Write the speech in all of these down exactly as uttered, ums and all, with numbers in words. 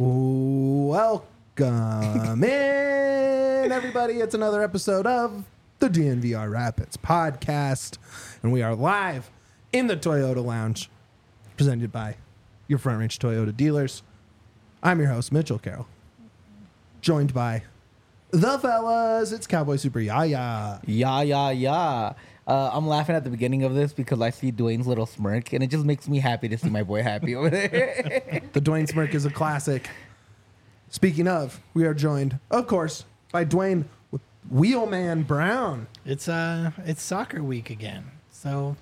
Welcome in, everybody. It's another episode of the D N V R Rapids podcast, and we are live in the Toyota Lounge, presented by your Front Range Toyota dealers. I'm your host, Mitchell Carroll, joined by the fellas. It's Cowboy Super Yaya. Yeah, yeah, yeah. Uh, I'm laughing at the beginning of this because I see Dwayne's little smirk, and it just makes me happy to see my boy happy over there. The Dwayne smirk is a classic. Speaking of, we are joined, of course, by Dwayne with Wheelman Brown. It's uh, it's soccer week again, so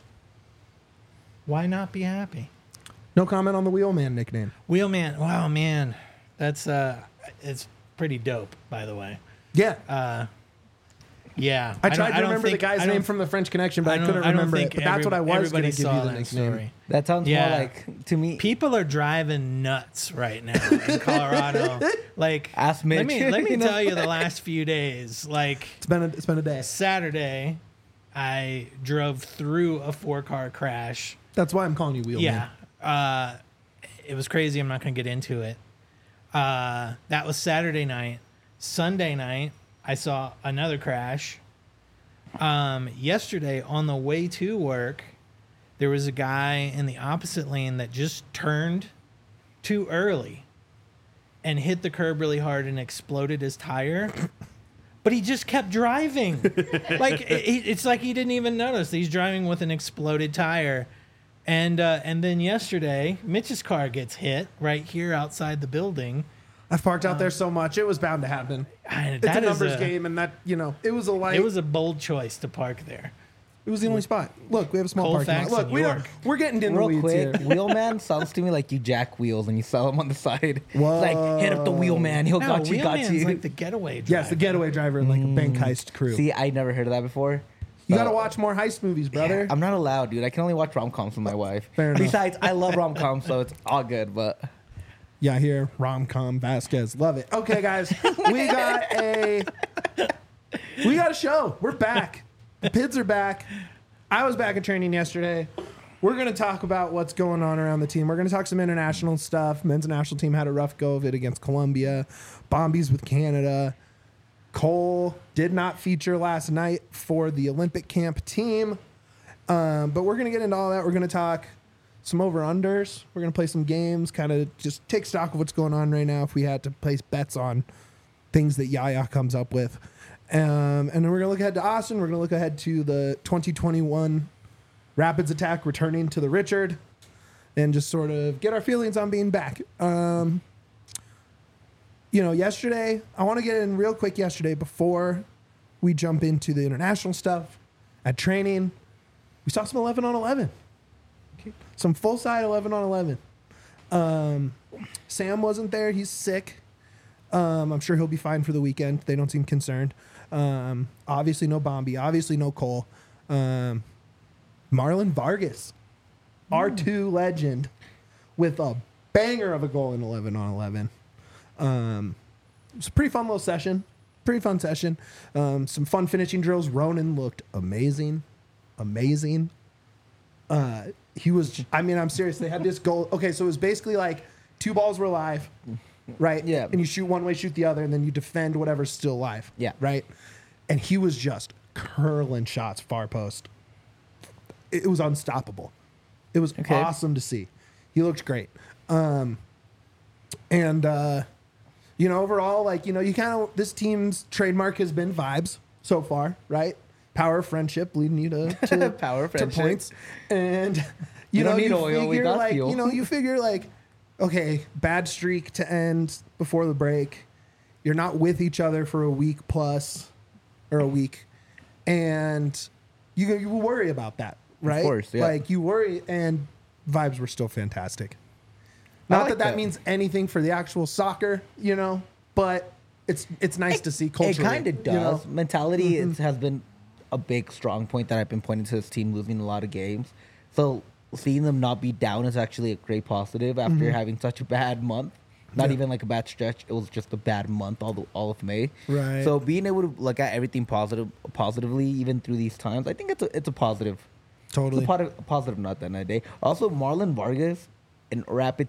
why not be happy? No comment on the Wheelman nickname. Wheelman, wow, man, that's uh, it's pretty dope, by the way. Yeah. Uh, yeah. I tried don't- to don't remember the think- guy's I don't- name from the French Connection, but I, don't- couldn't don't remember it. think But that's what I every- was going to everybody give saw you the that nickname. story. That sounds Yeah. more like, to me, People are driving nuts right now in Colorado. Like, Ask let Mitch. me let me You know? tell you the last few days. Like It's been a, it's been a day. Saturday, I drove through a four car crash. That's why I'm calling you Wheelman. Yeah. Uh, it was crazy. I'm not going to get into it. Uh, that was Saturday night. Sunday night, I saw another crash. Um, yesterday, on the way to work, there was a guy in the opposite lane that just turned too early and hit the curb really hard and exploded his tire. But he just kept driving. Like, it, it's like he didn't even notice. He's driving with an exploded tire. And uh, and then yesterday, Mitch's car gets hit right here outside the building. I've parked out there so much. It was bound to happen. I, It's that a is numbers a- game, and that, you know, it was a light. It was a bold choice to park there. It was the only spot. Look, we have a small parking Colfax lot. Look, and we don't, York. we're getting in the real weeds quick, here. Wheelman sounds to me like you jack wheels and you sell them on the side. Whoa. It's like, hit up the Wheelman. He'll No, got you, got Wheelman's you. like the getaway driver. Yes, the getaway driver in like a bank heist crew. See, I never heard of that before. you got So- to watch more heist movies, brother. I'm not allowed, dude. I can only watch rom-coms with my wife. Fair enough. Besides, I love rom-coms, so it's all good, but... Yeah, here, rom-com Vasquez, love it. Okay, guys, we got a we got a show. We're back. The Pids are back. I was back at training yesterday. We're gonna talk about what's going on around the team. We're gonna talk some international stuff. Men's national team had a rough go of it against Colombia. Bombies with Canada. Cole did not feature last night for the Olympic camp team, um, but we're gonna get into all that. We're gonna talk some over-unders. We're going to play some games, kind of just take stock of what's going on right now if we had to place bets on things that Yaya comes up with. Um, and then we're going to look ahead to Austin. We're going to look ahead to the twenty twenty-one Rapids attack returning to the Richard and just sort of get our feelings on being back. Um, you know, yesterday, I want to get in real quick yesterday before we jump into the international stuff. At training, we saw some eleven on eleven. Some full side eleven on eleven. Um, Sam wasn't there. He's sick. Um, I'm sure he'll be fine for the weekend. They don't seem concerned. Um, obviously no Bombi. Obviously no Cole. Um, Marlon Vargas, R two legend, with a banger of a goal in eleven on eleven. Um, it was a pretty fun little session. Pretty fun session. Um, some fun finishing drills. Ronan looked amazing. Amazing. Uh, he was, I mean, I'm serious. They had this goal. Okay, so it was basically like two balls were alive, right? Yeah. And you shoot one way, shoot the other, and then you defend whatever's still alive. Yeah. Right? And he was just curling shots far post. It, it was unstoppable. It was Okay. awesome to see. He looked great. Um, and, uh, you know, overall, like, you know, you kind of, this team's trademark has been vibes so far, right? Power of friendship leading you to, to, Power of to friendship. points. And, you We know, don't need you oil, we figure got like, fuel. you know, you figure like, okay, bad streak to end before the break. You're not with each other for a week plus or a week. And you, you worry about that, right? course, yeah. Like you worry, and vibes were still fantastic. I Not like that that that. means anything for the actual soccer, you know, but it's it's nice to see It culturally. kind of does. you know? Mentality Mhm. is, has been a big strong point that I've been pointing to this team losing a lot of games. So seeing them not be down is actually a great positive after having such a bad month. Not Yeah. even like a bad stretch. It was just a bad month all the, all of May. Right. So being able to look at everything positive positively even through these times, I think it's a it's a positive. Totally. It's a, positive, a positive note at the end of the day. Also, Marlon Vargas and Rapids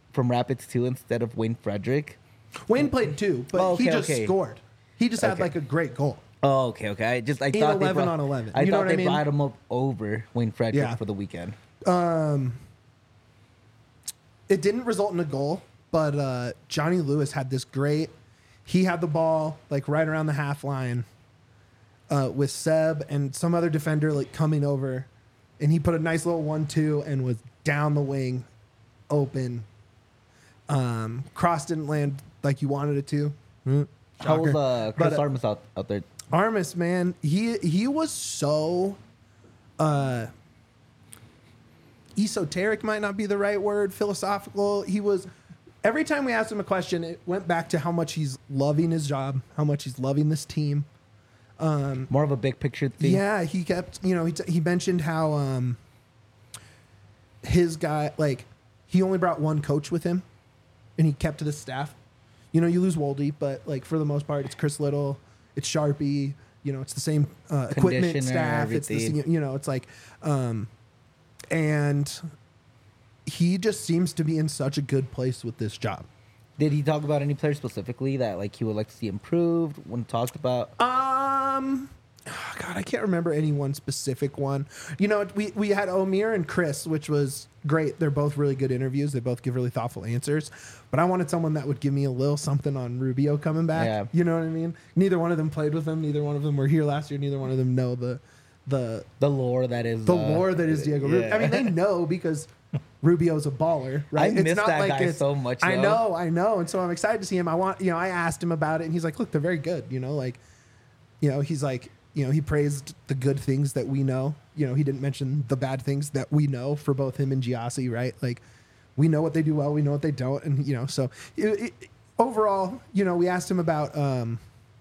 from Rapids too instead of Wayne Frederick? Wayne played two, but Oh, he okay, just okay. scored. He just had Okay. like a great goal. Oh, okay, okay. I just I In thought they eleven brought, on eleven. I You know thought what I they mean? brought him up over Wayne Frederick Yeah. for the weekend. Um, it didn't result in a goal, but uh, Johnny Lewis had this great. He had the ball like right around the half line uh, with Seb and some other defender like coming over, and he put a nice little one-two and was down the wing, open. Um, cross didn't land like you wanted it to. Mm, How was shocker. uh, Chris But, uh, Armas out, out there? Armas, man, he he was so uh esoteric might not be the right word, philosophical. He was every time we asked him a question, it went back to how much he's loving his job, how much he's loving this team. More of a big picture thing. Yeah, he kept, you know, he, t- he mentioned how um his guy, like, he only brought one coach with him and he kept to the staff. You know, you lose Wolde, but like for the most part, it's Chris Little, it's Sharpie, you know, it's the same uh, equipment Conditioner, staff. It's the everything. same, you know, it's like, um, and he just seems to be in such a good place with this job. Did he talk about any players specifically that like he would like to see improved when talked about? Um, oh God, I can't remember any one specific one. You know, we we had Omir and Chris, which was great. They're both really good interviews. They both give really thoughtful answers. But I wanted someone that would give me a little something on Rubio coming back. Yeah. You know what I mean? Neither one of them played with him. Neither one of them were here last year. Neither one of them know the the The lore that is the uh, lore that is Diego Rubio. yeah. I mean, they know because Rubio's a baller, right? I miss that guy so much, I though. know, I know, and so I'm excited to see him. I want, you know, I asked him about it, and he's like, "Look, they're very good." You know, like, you know, he's like, you know, he praised the good things that we know. You know, he didn't mention the bad things that we know for both him and Giassi, right? Like, we know what they do well, we know what they don't, and you know, so it, it, overall, you know, we asked him about. Um,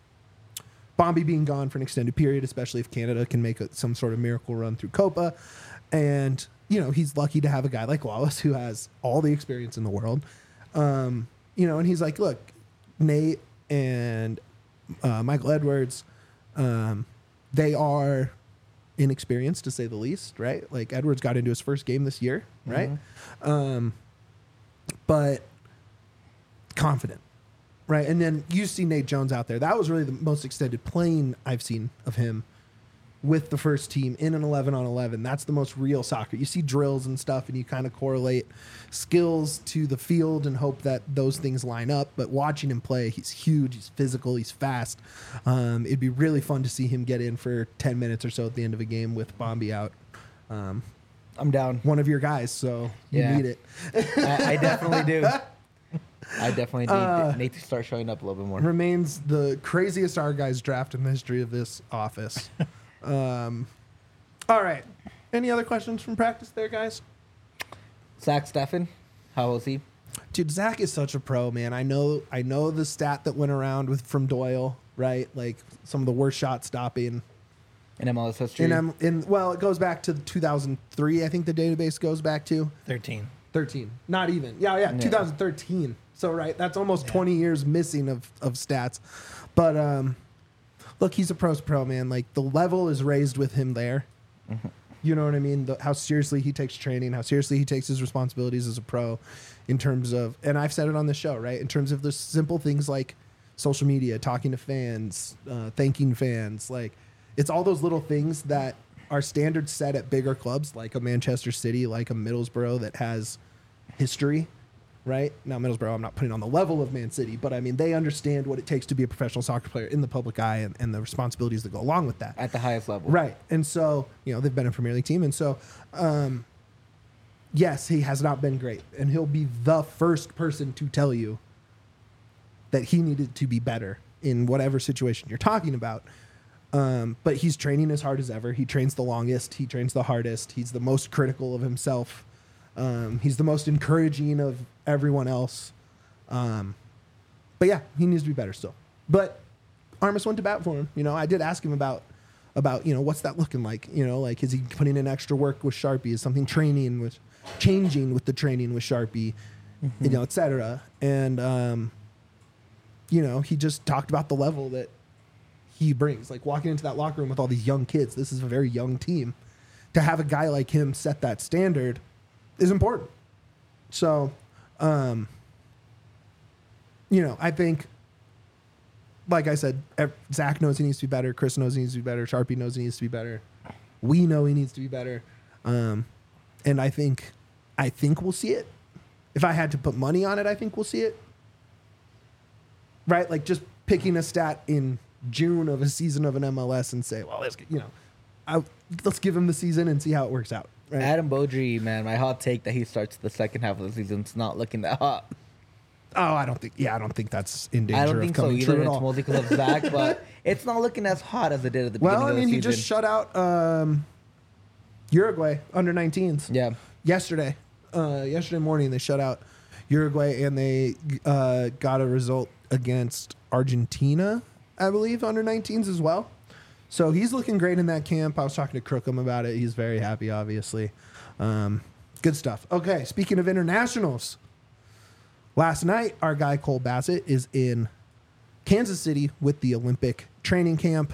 Bombi being gone for an extended period, especially if Canada can make a, some sort of miracle run through Copa. And, you know, he's lucky to have a guy like Wallace who has all the experience in the world. Um, you know, and he's like, look, Nate and uh, Michael Edwards, um, they are inexperienced to say the least, right? Like Edwards got into his first game this year, right? Um, but confident. Right, and then you see Nate Jones out there. That was really the most extended playing I've seen of him with the first team in an eleven on eleven. That's the most real soccer. You see drills and stuff, and you kind of correlate skills to the field and hope that those things line up. But watching him play, he's huge, he's physical, he's fast. Um, it'd be really fun to see him get in for ten minutes or so at the end of a game with Bombi out. Um, I'm down. one of your guys, so you Yeah. need it. I, I definitely do. I definitely need Uh, Nate to start showing up a little bit more. Remains the craziest our guys draft in the history of this office. um, all right. Any other questions from practice there, guys? Zach Steffen, how was he? Dude, Zach is such a pro, man. I know I know the stat that went around with from Doyle, right? Like some of the worst shot stopping. In M L S history? In, um, in well, it goes back to two thousand three, I think the database goes back to. thirteen. thirteen. Not even. Yeah, yeah, Yeah. two thousand thirteen. So right, that's almost Yeah. twenty years missing of of stats. But um look, he's a pro's pro, man. Like the level is raised with him there. You know what I mean? The, how seriously he takes training, how seriously he takes his responsibilities as a pro in terms of, and I've said it on the show, right? In terms of the simple things like social media, talking to fans, uh, thanking fans. Like it's all those little things that are standards set at bigger clubs like a Manchester City, like a Middlesbrough that has history, right? Now, Middlesbrough, I'm not putting on the level of Man City, but I mean, they understand what it takes to be a professional soccer player in the public eye and, and the responsibilities that go along with that. At the highest level. Right. And so, you know, they've been a Premier League team. And so, um, yes, he has not been great. And he'll be the first person to tell you that he needed to be better in whatever situation you're talking about. Um, but he's training as hard as ever. He trains the longest. He trains the hardest. He's the most critical of himself. Um, he's the most encouraging of everyone else. Um, but yeah, he needs to be better still. But Armas went to bat for him. You know, I did ask him about, about, you know, what's that looking like? You know, like, is he putting in extra work with Sharpie? Is something training with, changing with the training with Sharpie, mm-hmm. you know, et cetera. And, um, you know, he just talked about the level that he brings. Like walking into that locker room with all these young kids, this is a very young team. To have a guy like him set that standard is important. So, Um, you know, I think, like I said, ev- Zach knows he needs to be better. Chris knows he needs to be better. Sharpie knows he needs to be better. We know he needs to be better. Um, and I think, I think we'll see it. If I had to put money on it, I think we'll see it. Right? Like just picking a stat in June of a season of an M L S and say, well, let's, you know, I, let's give him the season and see how it works out. Right? Adam Beaudry, man, my hot take that he starts the second half of the season. It's not looking that hot. Oh, I don't think. Yeah, I don't think that's in danger I don't of think so coming either. true at It's all. mostly because of Zach, but it's not looking as hot as it did at the beginning Well, I of the mean, season. he just shut out um, Uruguay under nineteens. Yeah. Yesterday, uh, yesterday morning they shut out Uruguay and they uh, got a result against Argentina, I believe, under nineteens as well. So he's looking great in that camp. I was talking to Crookham about it. He's very happy, obviously. Um, good stuff. Okay, speaking of internationals. Last night, our guy Cole Bassett is in Kansas City with the Olympic training camp.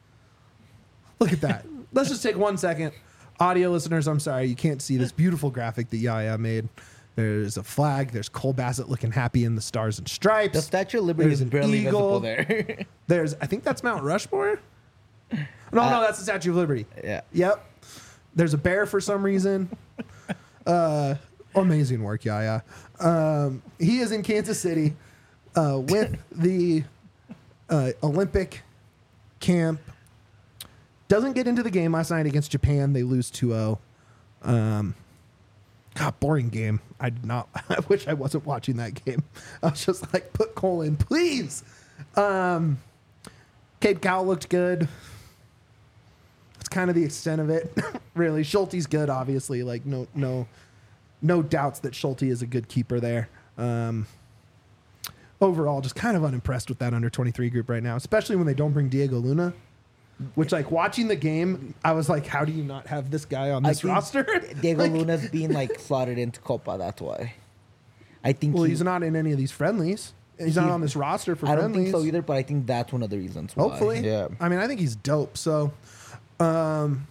Look at that. Let's just take one second. Audio listeners, I'm sorry, you can't see this beautiful graphic that Yaya made. There's a flag. There's Cole Bassett looking happy in the stars and stripes. The Statue of Liberty There's is an barely eagle. visible there. There's, I think that's Mount Rushmore. No, Uh, no, that's the Statue of Liberty. yeah. Yep. There's a bear for some reason. Uh, amazing work, Yaya. Um, he is in Kansas City uh, with the uh, Olympic camp. Doesn't get into the game last night against Japan. They lose two oh. Um, God, boring game. I did not. I wish I wasn't watching that game. I was just like, put Cole in, please. Um, Cape Cow looked good. That's kind of the extent of it, really. Schulte's good, obviously. Like no, no, no doubts that Schulte is a good keeper there. Um, overall, just kind of unimpressed with that under twenty-three group right now, especially when they don't bring Diego Luna. Which, like, watching the game, I was like, how do you not have this guy on I this think roster? Diego Like, Luna's being like slotted into Copa. That's why. I think. well, he- he's not in any of these friendlies. He's not He- on this roster for I don't friendlies. think so either, but I think that's one of the reasons. Why. Hopefully. Yeah. I mean, I think he's dope. So, um,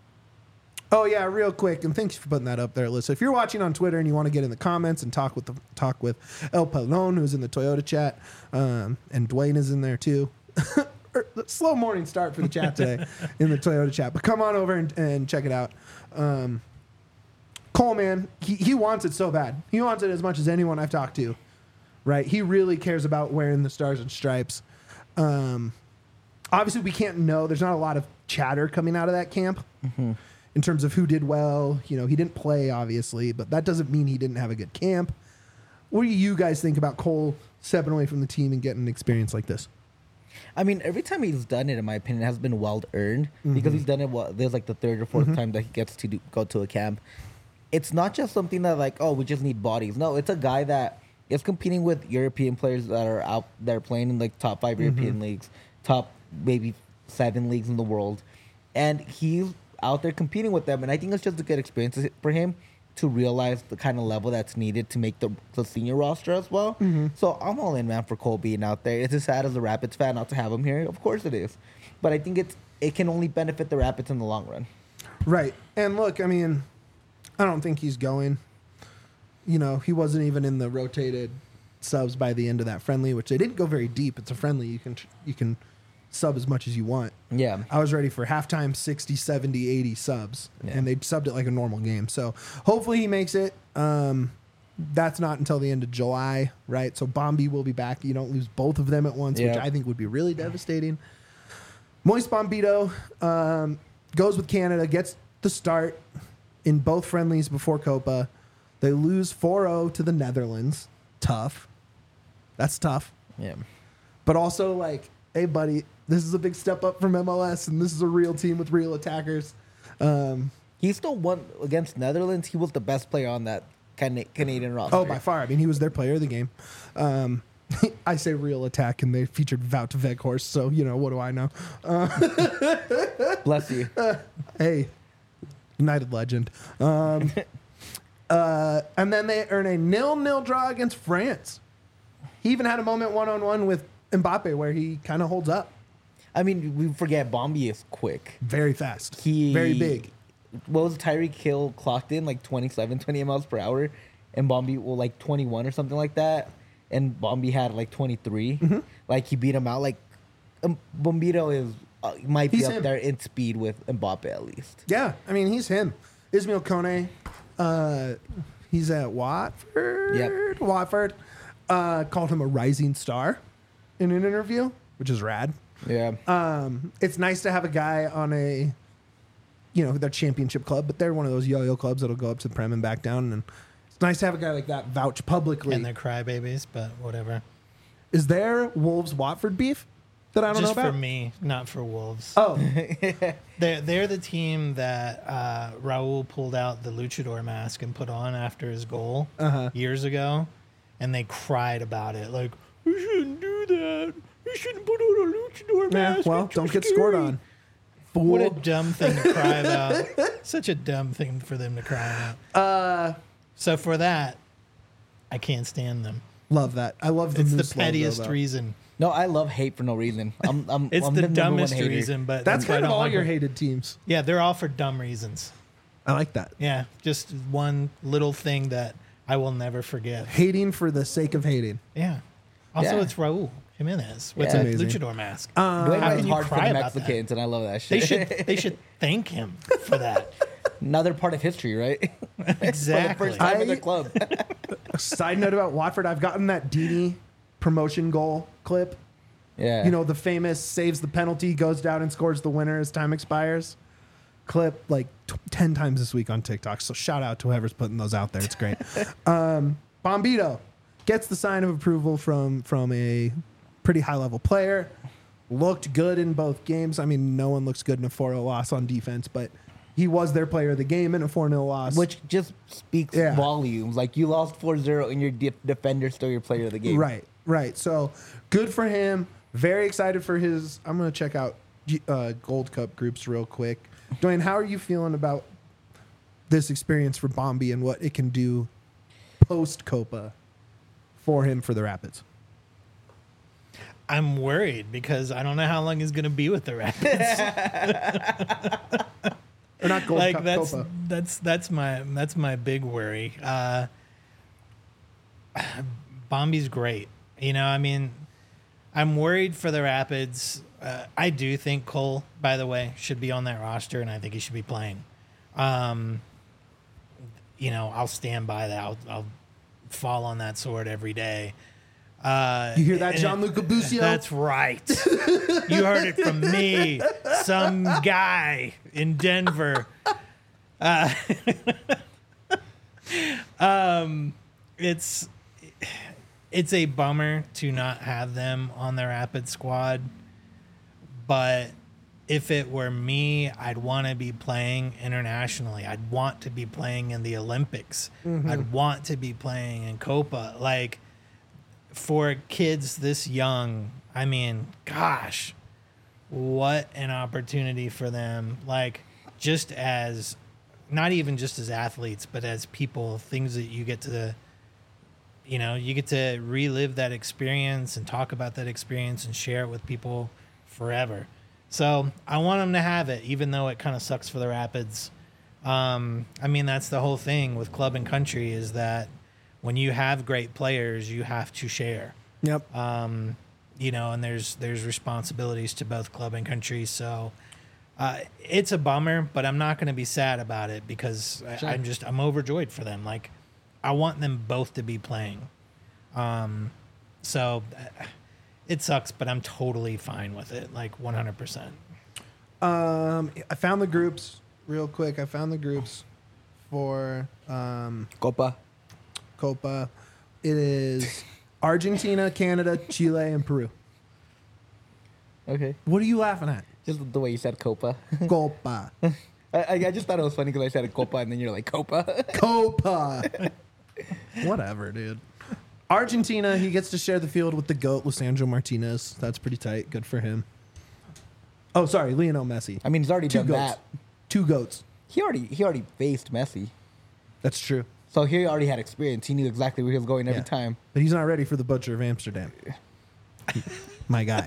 oh yeah, real quick, and thanks for putting that up there, Alyssa. If you're watching on Twitter and you want to get in the comments and talk with the talk with El Pelon, who's in the Toyota chat, um, and Dwayne is in there too. Er, slow morning start for the chat today in the Toyota chat, but come on over and, and check it out. Um, Cole, man, he, he wants it so bad. He wants it as much as anyone I've talked to. Right? He really cares about wearing the stars and stripes. Um, obviously, we can't know. There's not a lot of chatter coming out of that camp Mm-hmm. in terms of who did well. You know, he didn't play, obviously, but that doesn't mean he didn't have a good camp. What do you guys think about Cole stepping away from the team and getting an experience like this? I mean, every time he's done it, in my opinion, it has been well earned Mm-hmm. because he's done it. What there's like the third or 4th time that he gets to do, go to a camp. It's not just something that like, oh, we just need bodies. No, it's a guy that is competing with European players that are out there playing in like top five European leagues, top maybe seven leagues in the world, and he's out there competing with them. And I think it's just a good experience for him to realize the kind of level that's needed to make the, the senior roster as well. So I'm all in, man, for Cole being out there. It's as sad as a Rapids fan not to have him here. Of course it is. But I think it's it can only benefit the Rapids in the long run. Right. And look, I mean, I don't think he's going. You know, he wasn't even in the rotated subs by the end of that friendly, which they didn't go very deep. It's a friendly. You can you can sub as much as you want. Yeah. I was ready for halftime sixty, seventy, eighty subs, Yeah. and they subbed it like a normal game. So hopefully he makes it. Um, that's not until the end of July, right? So Bombi will be back. You don't lose both of them at once, which Yeah. I think would be really devastating. Moist Bombito um, goes with Canada, gets the start in both friendlies before Copa. They lose four oh to the Netherlands. Tough. That's tough. Yeah. But also, like, hey, buddy, this is a big step up from M L S, and this is a real team with real attackers. Um, He still won against Netherlands. He was the best player on that Can- Canadian roster. oh, by far. I mean, he was their player of the game. Um, I say real attack, and they featured Wout Weghorst, so, you know, what do I know? Bless you. Hey, United legend. Um, uh, and then they earn a nil-nil draw against France. He even had a moment one-on-one with Mbappe where he kind of holds up. I mean, we forget Bombi is quick. Very fast. He Very big. What was Tyreek Hill clocked in like twenty-seven, twenty miles per hour? and Bombi well like twenty-one or something like that, and Bombi had like twenty-three. Mm-hmm. Like he beat him out. Like um, Bombito is uh, might be He's up him. there in speed with Mbappe at least. Yeah, I mean he's him. Ismail Kone, uh, he's at Watford. Yep. Watford uh, called him a rising star in an interview, which is rad. Yeah. Um, it's nice to have a guy on a, you know, their championship club, but they're one of those yo-yo clubs that'll go up to the Prem and back down. And it's nice to have a guy like that vouch publicly. And they're crybabies, but whatever. Is there Wolves Watford beef that I don't Just know about? for me, not for Wolves. Oh, They're, they're the team that uh, Raul pulled out the luchador mask and put on after his goal Uh-huh. years ago. And they cried about it. Like, you shouldn't do that. You shouldn't put on a luchador yeah, mask. well, It's too don't get scary." scored on. What a Fool. dumb thing to cry about. Such a dumb thing for them to cry about. Uh, So for that, I can't stand them. love that. I love the It's the Moose logo, pettiest though. reason. No, I love hate for no reason. I'm, I'm, It's I'm the, number one dumbest hater. reason, but That's why I kind of don't all like your them. hated teams. Yeah, they're all for dumb reasons. I like that. Yeah, just one little thing that I will never forget. Hating for the sake of hating. Yeah. Also, Yeah. it's Raul Jimenez with Yeah. a Amazing. luchador mask. Uh, Dwayne How White's can you hard for cry the about that? Mexicans, and I love that They shit. should they should thank him for that. Another part of history, right? Exactly. For the first time in I- the club. Side note about Watford, I've gotten that Dini promotion goal clip. yeah. You know, the famous saves the penalty, goes down and scores the winner as time expires clip like t- ten times this week on TikTok. So shout out to whoever's putting those out there. It's great. um, Bombito gets the sign of approval from from a pretty high level player. Looked good in both games. I mean, no one looks good in a four nil loss on defense, but he was their player of the game in a four nil loss. Which just speaks Yeah. volumes. Like you lost four zero and your de- defender still your player of the game. Right, right. So good for him. Very excited for his. I'm going to check out uh, Gold Cup groups real quick. Dwayne, how are you feeling about this experience for Bombi and what it can do post Copa for him for the Rapids? I'm worried because I don't know how long he's going to be with the Rapids. Or not Gold like Cup, that's Copa. that's that's my that's my big worry. Uh, Bombi's great. You know, I mean, I'm worried for the Rapids. Uh, I do think Cole, by the way, should be on that roster, and I think he should be playing. Um, you know, I'll stand by that. I'll, I'll fall on that sword every day. Uh, You hear that, and- Gianluca Busio? That's right. You heard it from me, some guy in Denver. Uh, um, it's it's a bummer to not have them on the Rapid squad, but if it were me, I'd want to be playing internationally. I'd want to be playing in the Olympics. I'd want to be playing in Copa. Like, for kids this young, I mean, gosh, what an opportunity for them. Like, just as, not even just as athletes, but as people, things that you get to, you know, you get to relive that experience and talk about that experience and share it with people forever. So I want them to have it, even though it kind of sucks for the Rapids. Um, I mean, that's the whole thing with club and country is that when you have great players, you have to share. Yep. Um, you know, and there's there's responsibilities to both club and country. So uh, it's a bummer, but I'm not going to be sad about it because Sure. I, I'm just I'm overjoyed for them. Like, I want them both to be playing. Um, so uh, it sucks, but I'm totally fine with it, like one hundred percent. Um, I found the groups real quick. I found the groups for um, Copa. Copa. It is Argentina, Canada, Chile, and Peru. Okay. What are you laughing at? Just the way you said Copa. Copa. I, I I just thought it was funny because I said Copa and then you're like Copa. Copa. Whatever, dude. Argentina, he gets to share the field with the GOAT, Lisandro Martinez. That's pretty tight. Good for him. Oh, sorry, Lionel Messi. I mean, he's already Two done goats. that. Two GOATs. He already he already faced Messi, That's true. so he already had experience. He knew exactly where he was going every Yeah. time. But he's not ready for the Butcher of Amsterdam. My guy.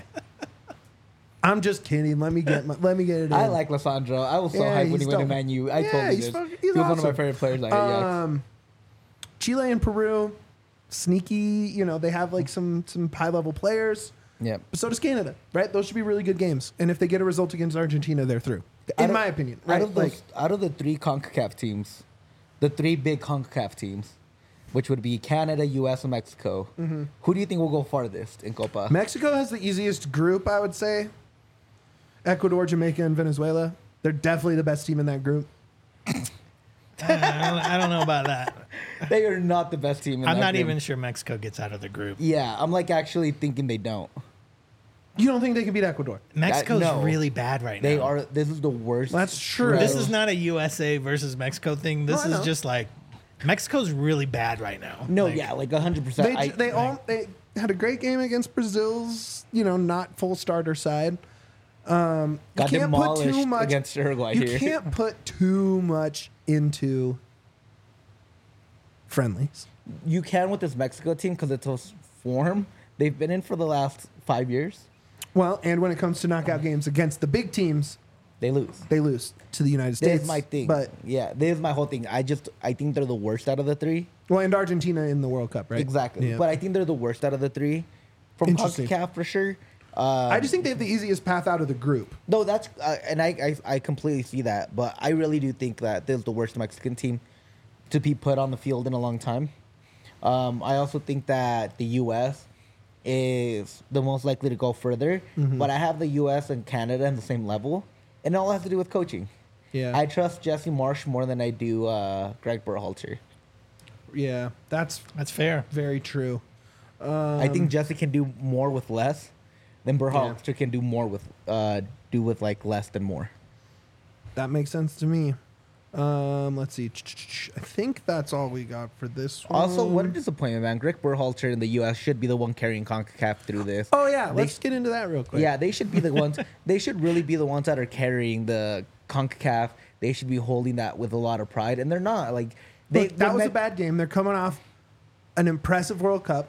I'm just kidding. Let me get my, let me get it in. I like Lissandro. I was so Yeah, hyped when he's he went to dope. Man U. I Yeah, totally he's did. fucking- he's he was one of my awesome. favorite players. I yeah. Um, Chile and Peru, sneaky. You know, they have like some some high level players. Yeah. But so does Canada, right? Those should be really good games. And if they get a result against Argentina, they're through. In Out of- my opinion, right? Out of those, Like, out of the three CONCACAF teams, the three big CONCACAF teams, which would be Canada, U S, and Mexico, Mm-hmm. who do you think will go farthest in Copa? Mexico has the easiest group, I would say. Ecuador, Jamaica, and Venezuela. They're definitely the best team in that group. I don't, I don't know about that. They are not the best team in I'm that not group. even sure Mexico gets out of the group. Yeah, I'm like actually thinking they don't. You don't think they can beat Ecuador? Mexico's no. really bad right now. They are. This is the worst. That's true. shred. This is not a U S A versus Mexico thing. This No, I is know. just like Mexico's really bad right now. No, Like, yeah, like hundred percent. They they all they had a great game against Brazil's, you know, not full starter side. Um, you Got can't put too demolished much against Uruguay You here. can't put too much into friendlies. You can with this Mexico team because it's a form they've been in for the last five years. Well, and when it comes to knockout games against the big teams, They lose. they lose to the United States. This is my thing. But yeah, this is my whole thing. I just I think they're the worst out of the three. well, and Argentina in the World Cup, right? Exactly. Yeah. But I think they're the worst out of the three from Interesting. CONCACAF for sure. Uh, I just think they have the easiest path out of the group. no, that's uh, and I, I I completely see that, but I really do think that this is the worst Mexican team to be put on the field in a long time. Um, I also think that the U S is the most likely to go further, Mm-hmm. but I have the U S and Canada on the same level, and it all has to do with coaching. Yeah. I trust Jesse Marsh more than I do uh, Greg Berhalter. Yeah, that's That's fair. very true. I Um, think Jesse can do more with less than Berhalter can do more with uh, do with like less than more. That makes sense to me. Um, let's see. I think that's all we got for this one. Also, what a disappointment, man. Greg Berhalter in the U S should be the one carrying CONCACAF through this. Oh yeah, They- let's get into that real quick. Yeah, they should be the ones. They should really be the ones that are carrying the CONCACAF. They should be holding that with a lot of pride, and they're not. Like they, Look, that they was a met- bad game. They're coming off an impressive World Cup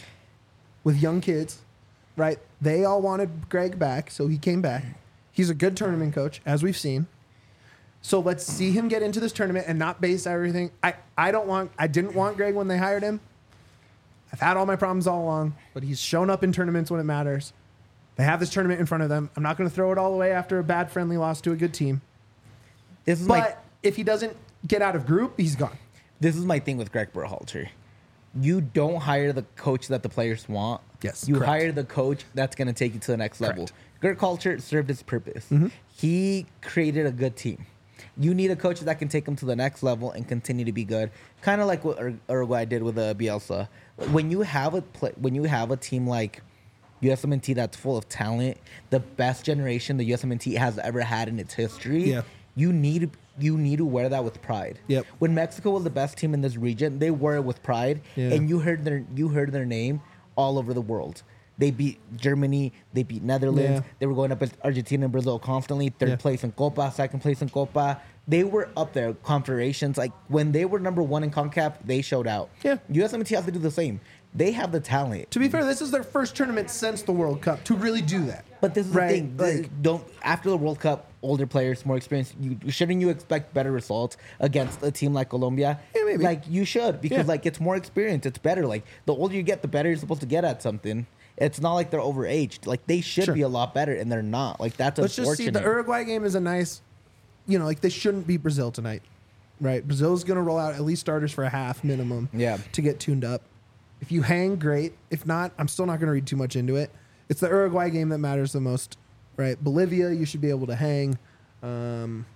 with young kids, right? They all wanted Greg back, so he came back. He's a good tournament coach, as we've seen. So let's see him get into this tournament and not base everything. I, I don't want I didn't want Greg when they hired him. I've had all my problems all along, but he's shown up in tournaments when it matters. They have this tournament in front of them. I'm not going to throw it all away after a bad friendly loss to a good team. This is But my if he doesn't get out of group, he's gone. this is my thing with Greg Berhalter. You don't hire the coach that the players want. Yes, You correct. hire the coach that's going to take you to the next level. Greg Berhalter served his purpose. Mm-hmm. He created a good team. You need a coach that can take them to the next level and continue to be good. Kind of like what Ur- Uruguay did with uh, Bielsa. When you have a play, when you have a team like U S M N T that's full of talent, the best generation the U S M N T has ever had in its history. Yeah. You need you need to wear that with pride. Yep. When Mexico was the best team in this region, they wore it with pride, Yeah. and you heard their you heard their name all over the world. They beat Germany, they beat Netherlands. Yeah. They were going up against Argentina and Brazil constantly. Third Yeah. place in Copa, second place in Copa. They were up there, confederations. Like when they were number one in CONCACAF, they showed out. Yeah. U S M N T has to do the same. They have the talent. To be fair, this is their first tournament since the World Cup to really do that. But this is Right, the thing. This- like- don't after the World Cup, older players, more experience. You shouldn't you expect better results against a team like Colombia? Yeah, maybe. Like you should because Yeah. like it's more experience. It's better. Like the older you get, the better you're supposed to get at something. It's not like they're overaged. Like they should Sure. be a lot better, and they're not. Like that's Let's just see. unfortunate. The Uruguay game is a nice, you know, like they shouldn't beat Brazil tonight, right? Brazil's going to roll out at least starters for a half minimum Yeah. to get tuned up. If you hang, great. If not, I'm still not going to read too much into it. It's the Uruguay game that matters the most, right? Bolivia, you should be able to hang. Um,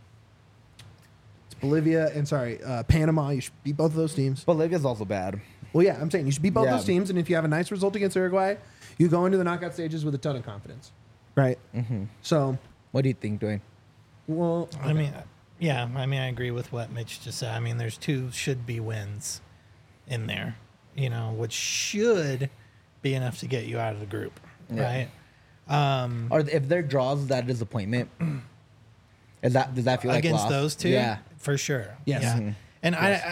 it's Bolivia and, sorry, uh, Panama. You should beat both of those teams. Bolivia's also bad. Well, yeah, I'm saying you should beat both Yeah. those teams, and if you have a nice result against Uruguay, you go into the knockout stages with a ton of confidence, right? Mm-hmm. So, What do you think, Dwayne? well, I mean, yeah, I mean, I agree with what Mitch just said. I mean, there's two should be wins in there, you know, which should be enough to get you out of the group, Yeah. right? Um, Or if they're draws, is that a disappointment? Is that does that feel like against loss? those two, Yeah. for sure. Yes. Yeah. Mhm. And I, I,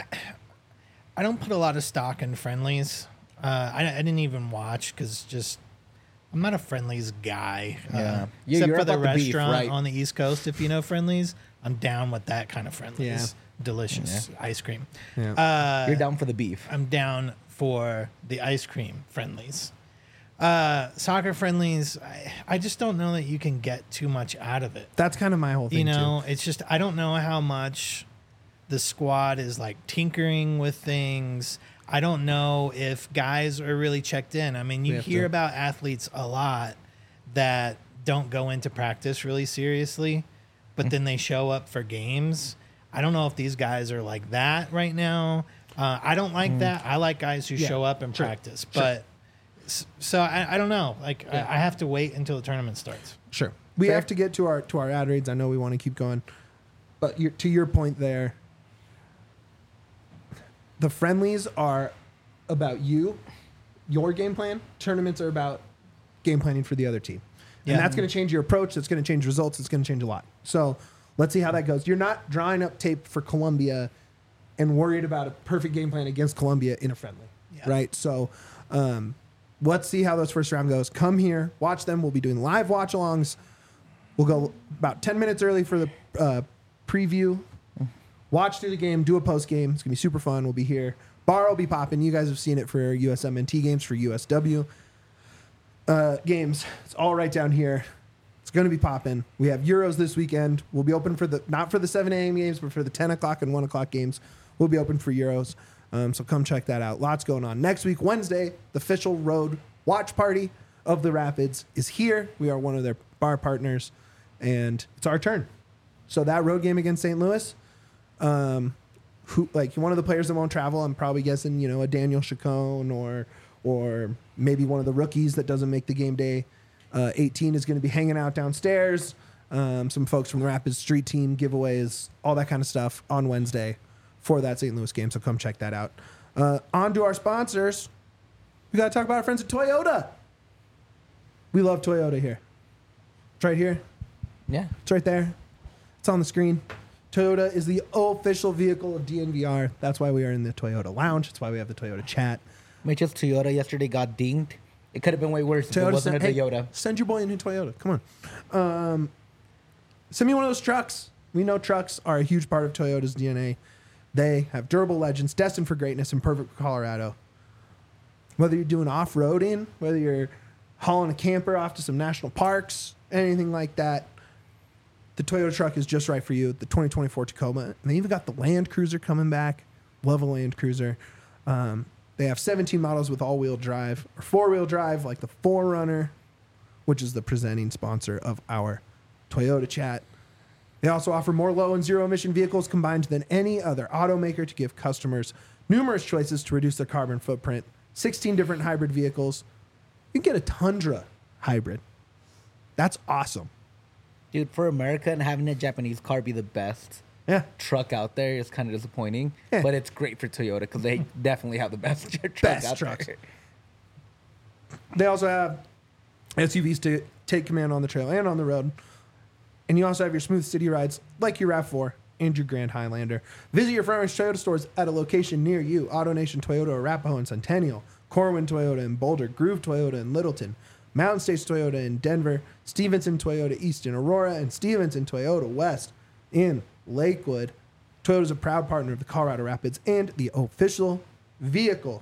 I don't put a lot of stock in friendlies. Uh, I, I didn't even watch because just I'm not a friendlies guy. Yeah. Uh, You- except you're for the about the beef, restaurant right? on the East Coast. If you know friendlies, I'm down with that kind of friendlies. delicious ice cream. Yeah. Uh, You're down for the beef. I'm down for the ice cream friendlies. Uh, soccer friendlies, I, I just don't know that you can get too much out of it. That's kind of my whole thing. You know, too. it's just, I don't know how much the squad is like tinkering with things. I don't know if guys are really checked in. I mean, We you have hear to- about athletes a lot that don't go into practice really seriously, but then they show up for games. I don't know if these guys are like that right now. Uh, I don't like that. I like guys who Yeah, show up and sure, practice, sure. but s- so I, I don't know. Like Yeah. I, I have to wait until the tournament starts. Sure. We Fair. have to get to our to our ad reads. I know we want to keep going, but you to your point there, the friendlies are about you, your game plan. Tournaments are about game planning for the other team, and Yeah. that's going to change your approach. That's going to change results. It's going to change a lot. So let's see how that goes. You're not drawing up tape for Colombia and worried about a perfect game plan against Colombia in a friendly, Yeah. right? So. Um, Let's see how those first round goes. Come here, watch them. We'll be doing live watch alongs. We'll go about ten minutes early for the uh, preview. Watch through the game, do a post game. It's going to be super fun. We'll be here. Bar will be popping. You guys have seen it for U S M N T games, for U S W uh, games. It's all right down here. It's going to be popping. We have Euros this weekend. We'll be open for the, not for the seven a.m. games, but for the ten o'clock and one o'clock games. We'll be open for Euros. Um, so come check that out. Lots going on. Next week, Wednesday, the official road watch party of the Rapids is here. We are one of their bar partners, and it's our turn. So that road game against Saint Louis, um, who like one of the players that won't travel, I'm probably guessing, you know, a Daniel Chacon or or maybe one of the rookies that doesn't make the game day. Uh, eighteen is going to be hanging out downstairs. Um, some folks from the Rapids street team, giveaways, all that kind of stuff on Wednesday for that Saint Louis game. So come check that out. Uh, on to our sponsors. We got to talk about our friends at Toyota. We love Toyota here. It's right here. Yeah. It's right there. It's on the screen. Toyota is the official vehicle of D N V R. That's why we are in the Toyota lounge. That's why we have the Toyota chat. Mitchell's Toyota yesterday got dinged. It could have been way worse if it wasn't a sent- hey, Toyota. send your boy a new Toyota. Come on. Um, send me one of those trucks. We know trucks are a huge part of Toyota's D N A. They have durable legends destined for greatness and perfect for Colorado. Whether you're doing off-roading, whether you're hauling a camper off to some national parks, anything like that, the Toyota truck is just right for you. The twenty twenty-four Tacoma. And they even got the Land Cruiser coming back. Love a Land Cruiser. Um, they have seventeen models with all-wheel drive or four-wheel drive, like the four runner, which is the presenting sponsor of our Toyota chat. They also offer more low and zero emission vehicles combined than any other automaker to give customers numerous choices to reduce their carbon footprint. sixteen different hybrid vehicles. You can get a Tundra hybrid. That's awesome. Dude, for America and having a Japanese car be the best Yeah. truck out there is kind of disappointing. Yeah. But it's great for Toyota because they definitely have the best truck Best out trucks. there. They also have S U Vs to take command on the trail and on the road. And you also have your smooth city rides like your RAV four and your Grand Highlander. Visit your Front Range Toyota stores at a location near you. AutoNation Toyota, Arapahoe and Centennial. Corwin Toyota in Boulder. Groove Toyota in Littleton. Mountain States Toyota in Denver. Stevenson Toyota East in Aurora. And Stevenson Toyota West in Lakewood. Toyota is a proud partner of the Colorado Rapids and the official vehicle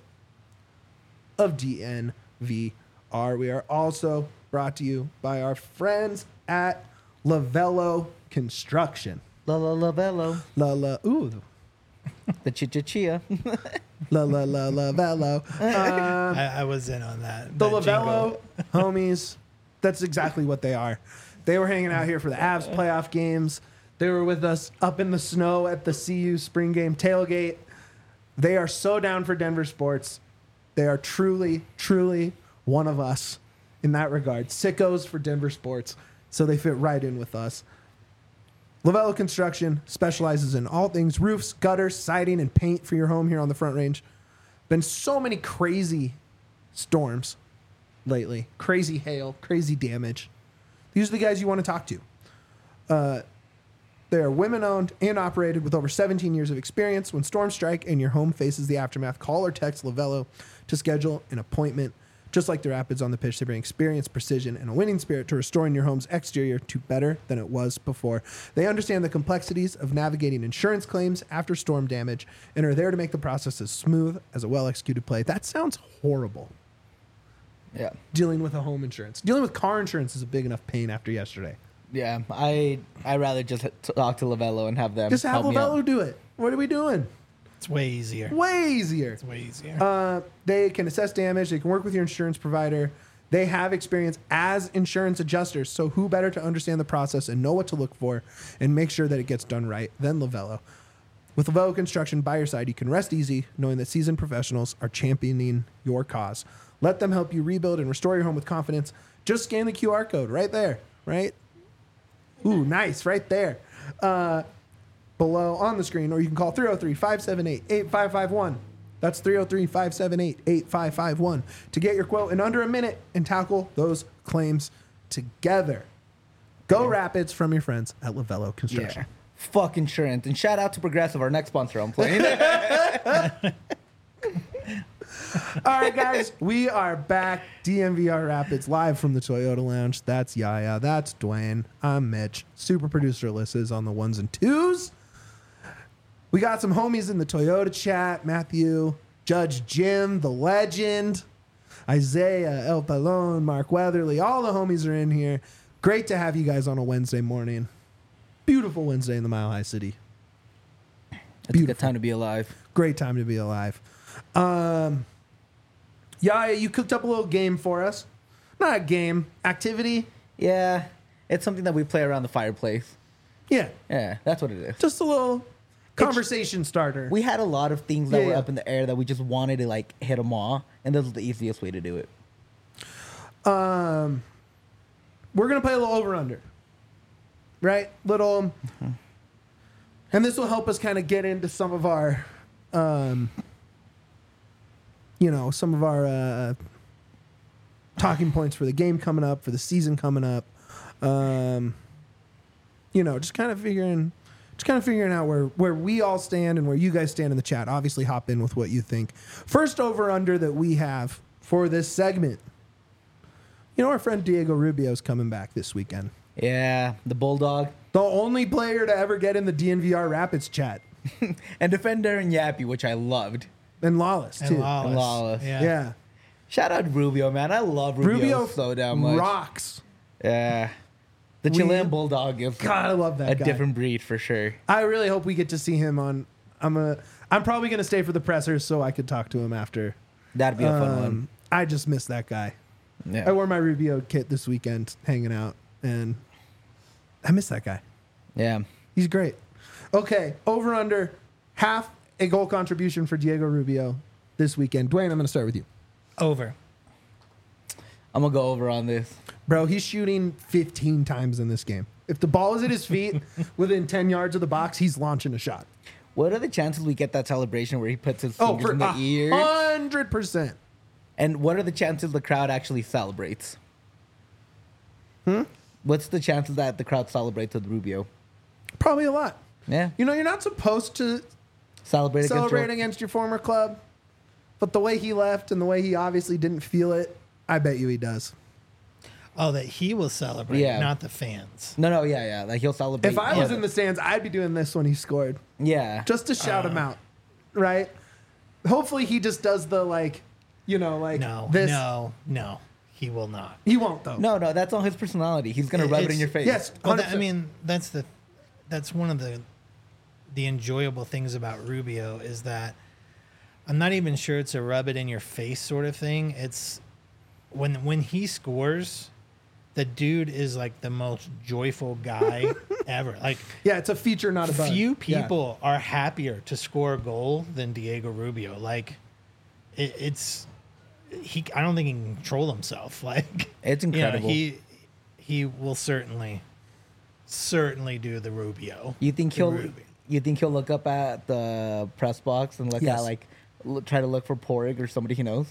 of D N V R. We are also brought to you by our friends at Lavello Construction. La la la bello. La la ooh, The chicha chia. la la la Lavello. Um, I, I was in on that. the that Lavello jingle. homies. That's exactly what they are. They were hanging out here for the Avs playoff games. They were with us up in the snow at the C U spring game tailgate. They are so down for Denver sports. They are truly, truly one of us in that regard. Sickos for Denver sports. So they fit right in with us. Lavello Construction specializes in all things roofs, gutters, siding, and paint for your home here on the Front Range. Been so many crazy storms lately. Crazy hail, crazy damage. These are the guys you want to talk to. Uh, they are women-owned and operated with over seventeen years of experience. When storms strike and your home faces the aftermath, call or text Lavello to schedule an appointment. Just like the Rapids on the pitch, they bring experience, precision, and a winning spirit to restoring your home's exterior to better than it was before. They understand the complexities of navigating insurance claims after storm damage and are there to make the process as smooth as a well-executed play. That sounds horrible. Yeah. Dealing with a home insurance. Dealing with car insurance is a big enough pain after yesterday. Yeah. I I rather just talk to Lavello and have them Just have help me out. Lavello do it. What are we doing? It's way easier. Way easier. It's way easier. Uh, they can assess damage. They can work with your insurance provider. They have experience as insurance adjusters. So who better to understand the process and know what to look for and make sure that it gets done right than Lavello? With Lavello Construction by your side, you can rest easy knowing that seasoned professionals are championing your cause. Let them help you rebuild and restore your home with confidence. Just scan the Q R code right there, right? Ooh, nice, right there. Uh, below on the screen, or you can call three oh three, five seven eight, eight five five one. That's three oh three, five seven eight, eight five five one to get your quote in under a minute and tackle those claims together. Go yeah. Rapids from your friends at Lavello Construction. Yeah. Fuck insurance. And shout out to Progressive, our next sponsor I'm playing. All right, guys, we are back. D M V R Rapids live from the Toyota Lounge. That's Yaya. That's Dwayne. I'm Mitch. Super producer Alyssa's on the ones and twos. We got some homies in the Toyota chat. Matthew, Judge Jim, the legend, Isaiah, El Palon, Mark Weatherly. All the homies are in here. Great to have you guys on a Wednesday morning. Beautiful Wednesday in the Mile High City. It's Beautiful. a good time to be alive. Great time to be alive. Um, yeah, you cooked up a little game for us. Not a game, activity. Yeah, it's something that we play around the fireplace. Yeah. Yeah, that's what it is. Just a little conversation it's, starter. We had a lot of things that yeah, were yeah. up in the air that we just wanted to like hit them all, and this was the easiest way to do it. Um, we're gonna play a little over under, right? Little, mm-hmm. and this will help us kind of get into some of our, um, you know, some of our uh, talking points for the game coming up, for the season coming up. Um, you know, just kind of figuring. Just kind of figuring out where, where we all stand and where you guys stand in the chat. Obviously, hop in with what you think. First over-under that we have for this segment. You know, our friend Diego Rubio is coming back this weekend. Yeah, the Bulldog. The only player to ever get in the D N V R Rapids chat. And Defender and Yappy, which I loved. And Lawless, and too. Lawless. And Lawless. Yeah. yeah. Shout out Rubio, man. I love Rubio, Rubio so damn much. rocks. Yeah. The We- Chilean Bulldog is God, I love that a guy. different breed for sure. I really hope we get to see him on... I'm a, I'm probably going to stay for the pressers so I could talk to him after. That'd be a fun Um, one. I just miss that guy. Yeah. I wore my Rubio kit this weekend hanging out, and I miss that guy. Yeah. He's great. Okay, over under half a goal contribution for Diego Rubio this weekend. Dwayne, I'm going to start with you. Over. I'm going to go over on this. Bro, he's shooting fifteen times in this game. If the ball is at his feet within ten yards of the box, he's launching a shot. What are the chances we get that celebration where he puts his Oh, fingers for in the a ears? hundred percent. And what are the chances the crowd actually celebrates? Hmm? What's the chances that the crowd celebrates with Rubio? Probably a lot. Yeah. You know, you're not supposed to Celebrate, celebrate against, against your former club, but the way he left and the way he obviously didn't feel it, I bet you he does. Oh, that he will celebrate, Yeah. not the fans. No, no, yeah, yeah. Like he'll celebrate. If I was yeah. in the stands, I'd be doing this when he scored. Yeah. Just to shout Uh. him out, right? Hopefully he just does the like, you know, like No, this. no, no. He will not. He won't though. No, no, that's all his personality. He's gonna It- rub it it's- in your face. Yes, Well, that, I one hundred percent. mean, that's the that's one of the the enjoyable things about Rubio is that I'm not even sure it's a rub it in your face sort of thing. It's when when he scores, the dude is like the most joyful guy ever. Like Yeah, it's a feature, not a bug. few Yeah. people are happier to score a goal than Diego Rubio. Like it, it's he. I don't think he can control himself. Like It's you know, incredible. he he will certainly certainly do the Rubio. You think The he'll Rubio. you think he'll look up at the press box and look Yes. at like l- try to look for Porig or somebody he knows?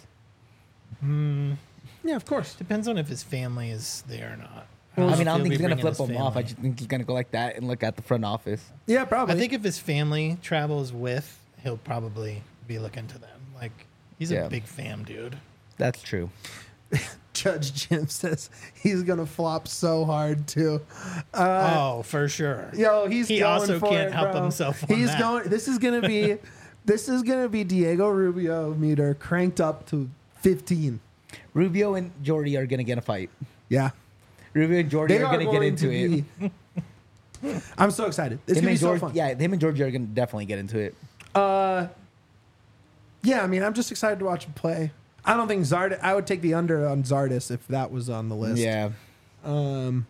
Yeah, of course. Depends on if his family is there or not. I mean, I if don't he'll think be he's gonna bringing flip his him off. I family. just think he's gonna go like that and look at the front office. Yeah, probably. I think if his family travels with, he'll probably be looking to them. Like he's Yeah. a big fam dude. That's true. Judge Jim says he's gonna flop so hard too. oh, for sure. Yo, he's he going also for can't it, help bro. himself on He's that. going. This is gonna be, this is gonna be Diego Rubio meter cranked up to fifteen. Rubio and Jordy are gonna get a fight. Yeah, Rubio and Jordy they are are gonna going get into to it. be. I'm so excited. It's Him gonna be and so George, fun. yeah, him and Georgie are gonna definitely get into it. Uh, yeah. I mean, I'm just excited to watch him play. I don't think Zard. I would take the under on Zardis if that was on the list. Yeah, Um,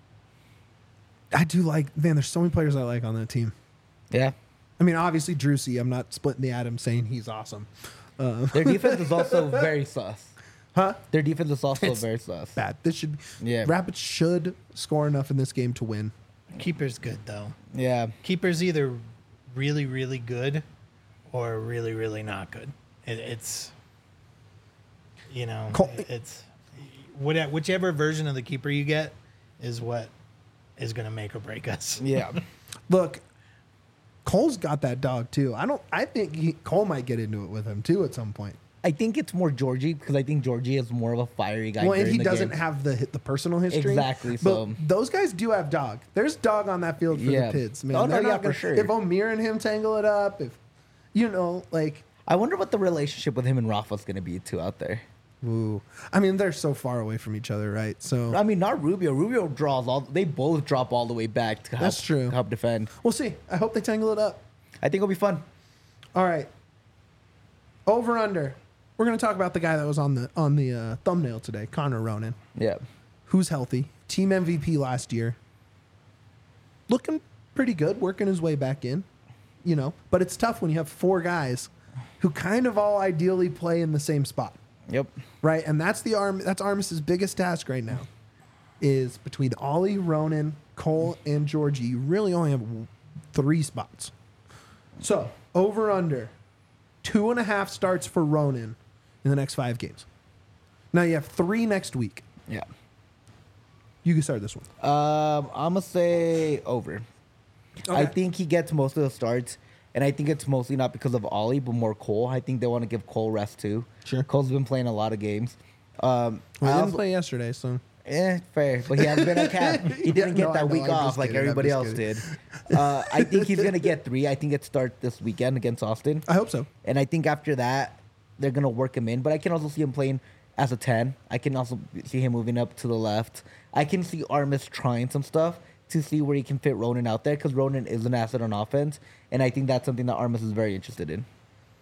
I do like. Man, there's so many players I like on that team. yeah. I mean, obviously Drusy. I'm not splitting the atom saying he's awesome. Uh, Their defense is also very sus. huh? Their defense is also It's very sus. Bad. This should. Yeah. Rapids should score enough in this game to win. Keeper's good though. Yeah, Keeper's either really, really good or really, really not good. It, it's, you know, Col- it's what, whichever version of the keeper you get is what is going to make or break us. yeah. Look, Cole's got that dog too. I don't. I think he, Cole might get into it with him too at some point. I think it's more Georgie because I think Georgie is more of a fiery guy. Well, and during he the doesn't game. have the the personal history. Exactly, But so- those guys do have dog. There's dog on that field for Yeah. the Pids, man. Oh, no, They're yeah, not for gonna- sure. If Omir and him tangle it up, if you know, like, I wonder what the relationship with him and Rafa's gonna be too out there. ooh. I mean, they're so far away from each other, right? So I mean, not Rubio. Rubio draws all. They both drop all the way back to help, That's true. help defend. we'll see. I hope they tangle it up. I think it'll be fun. All right. Over under. We're gonna talk about the guy that was on the on the uh, thumbnail today, Connor Ronan, Yeah. who's healthy, team M V P last year, looking pretty good, working his way back in, you know. But it's tough when you have four guys who kind of all ideally play in the same spot, Yep. right? And that's the arm. That's Armis's biggest task right now, is between Ollie, Ronan, Cole, and Georgie. You really only have three spots. So over under two and a half starts for Ronan in the next five games. Now you have three next week. Yeah. You can start this one. Um, I'm gonna say over. I Okay. think he gets most of the starts, and I think it's mostly not because of Ollie, but more Cole. I think they want to give Cole rest too. Sure. Cole's been playing a lot of games. Um, Well, I he didn't also- play yesterday, so Eh, fair, but he hasn't been at camp. He didn't Yeah, get no, that I know, week I'm off just like kidding, I'm everybody just else kidding. did. Uh, I think he's gonna get three. I think it starts this weekend against Austin, I hope so. and I think after that they're gonna work him in. But I can also see him playing as a ten. I can also see him moving up to the left. I can see Armis trying some stuff to see where he can fit Ronan out there because Ronan is an asset on offense, and I think that's something that Armis is very interested in.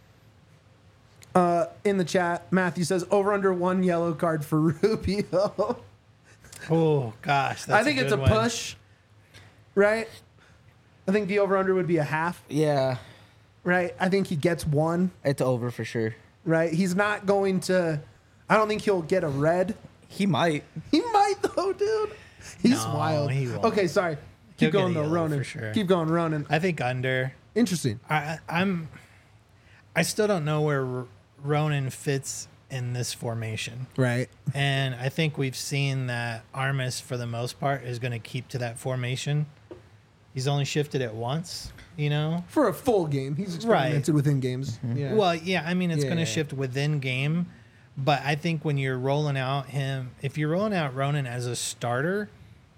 Uh, in the chat, Matthew says over under one yellow card for Rubio. Oh gosh, that's I think it's a good one. push, right? I think the over under would be a half, Yeah, right? I think he gets one, it's over for sure. right? He's not going to. I don't think he'll get a red. He might. He might though, dude. He's No, wild. he won't. Okay, sorry. He'll Keep get going a though, yellow Ronan. for sure. Keep going, Ronan. I think under. Interesting. I, I'm. I still don't know where R- Ronan fits in this formation, Right. and I think we've seen that Armis, for the most part, is going to keep to that formation. He's only shifted it once, you know. For a full game, he's experimented within games. Yeah. Well, yeah, I mean, it's Yeah, going to yeah, yeah. shift within game, but I think when you're rolling out him, if you're rolling out Ronan as a starter,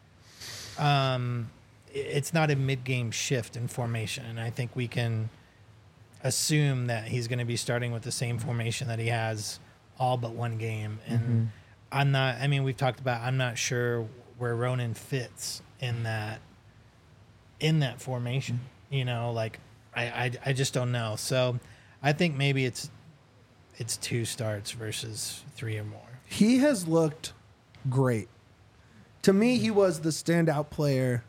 um, i- it's not a mid-game shift in formation, and I think we can assume that he's going to be starting with the same formation that he has all but one game. And Mm-hmm. I'm not. I mean, we've talked about. I'm not sure where Ronan fits in that in that formation. You know, like I, I, I just don't know. So I think maybe it's it's two starts versus three or more. he has looked great. To me, he was the standout player,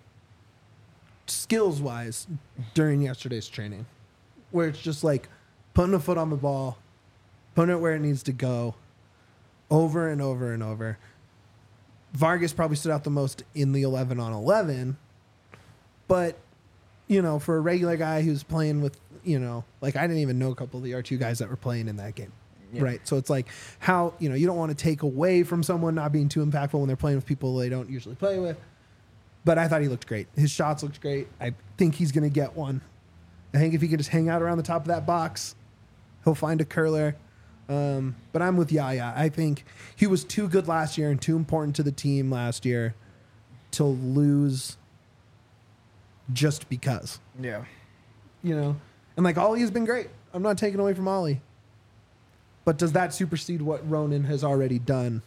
skills wise, during yesterday's training, where it's just like putting a foot on the ball, putting it where it needs to go, over and over and over. Vargas probably stood out the most in the eleven on eleven, but you know, for a regular guy who's playing with, you know, like I didn't even know a couple of the R two guys that were playing in that game. Yeah. Right. So it's like how, you know, you don't want to take away from someone not being too impactful when they're playing with people they don't usually play with. But I thought he looked great. His shots looked great. I think he's going to get one. I think if he could just hang out around the top of that box, he'll find a curler. Um, but I'm with Yaya. I think he was too good last year and too important to the team last year to lose just because. Yeah. You know? And like Ollie has been great. I'm not taking away from Ollie. But does that supersede what Ronan has already done?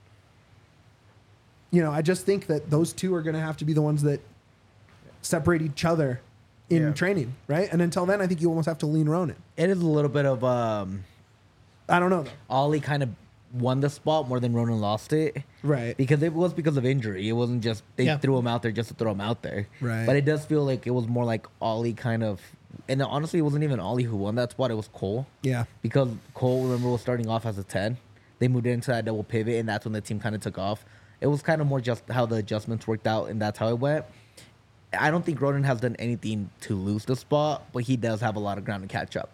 You know, I just think that those two are going to have to be the ones that separate each other in Yeah. training, right? And until then, I think you almost have to lean Ronan. It is a little bit of um, I don't know, though. Ollie kind of won the spot more than Ronan lost it. Right. Because it was because of injury. It wasn't just they Yeah. threw him out there just to throw him out there. Right. But it does feel like it was more like Ollie kind of, and honestly, it wasn't even Ollie who won that spot. It was Cole. Yeah. Because Cole, remember, was starting off as a ten. They moved into that double pivot, and that's when the team kind of took off. It was kind of more just how the adjustments worked out, and that's how it went. I don't think Ronan has done anything to lose the spot, but he does have a lot of ground to catch up.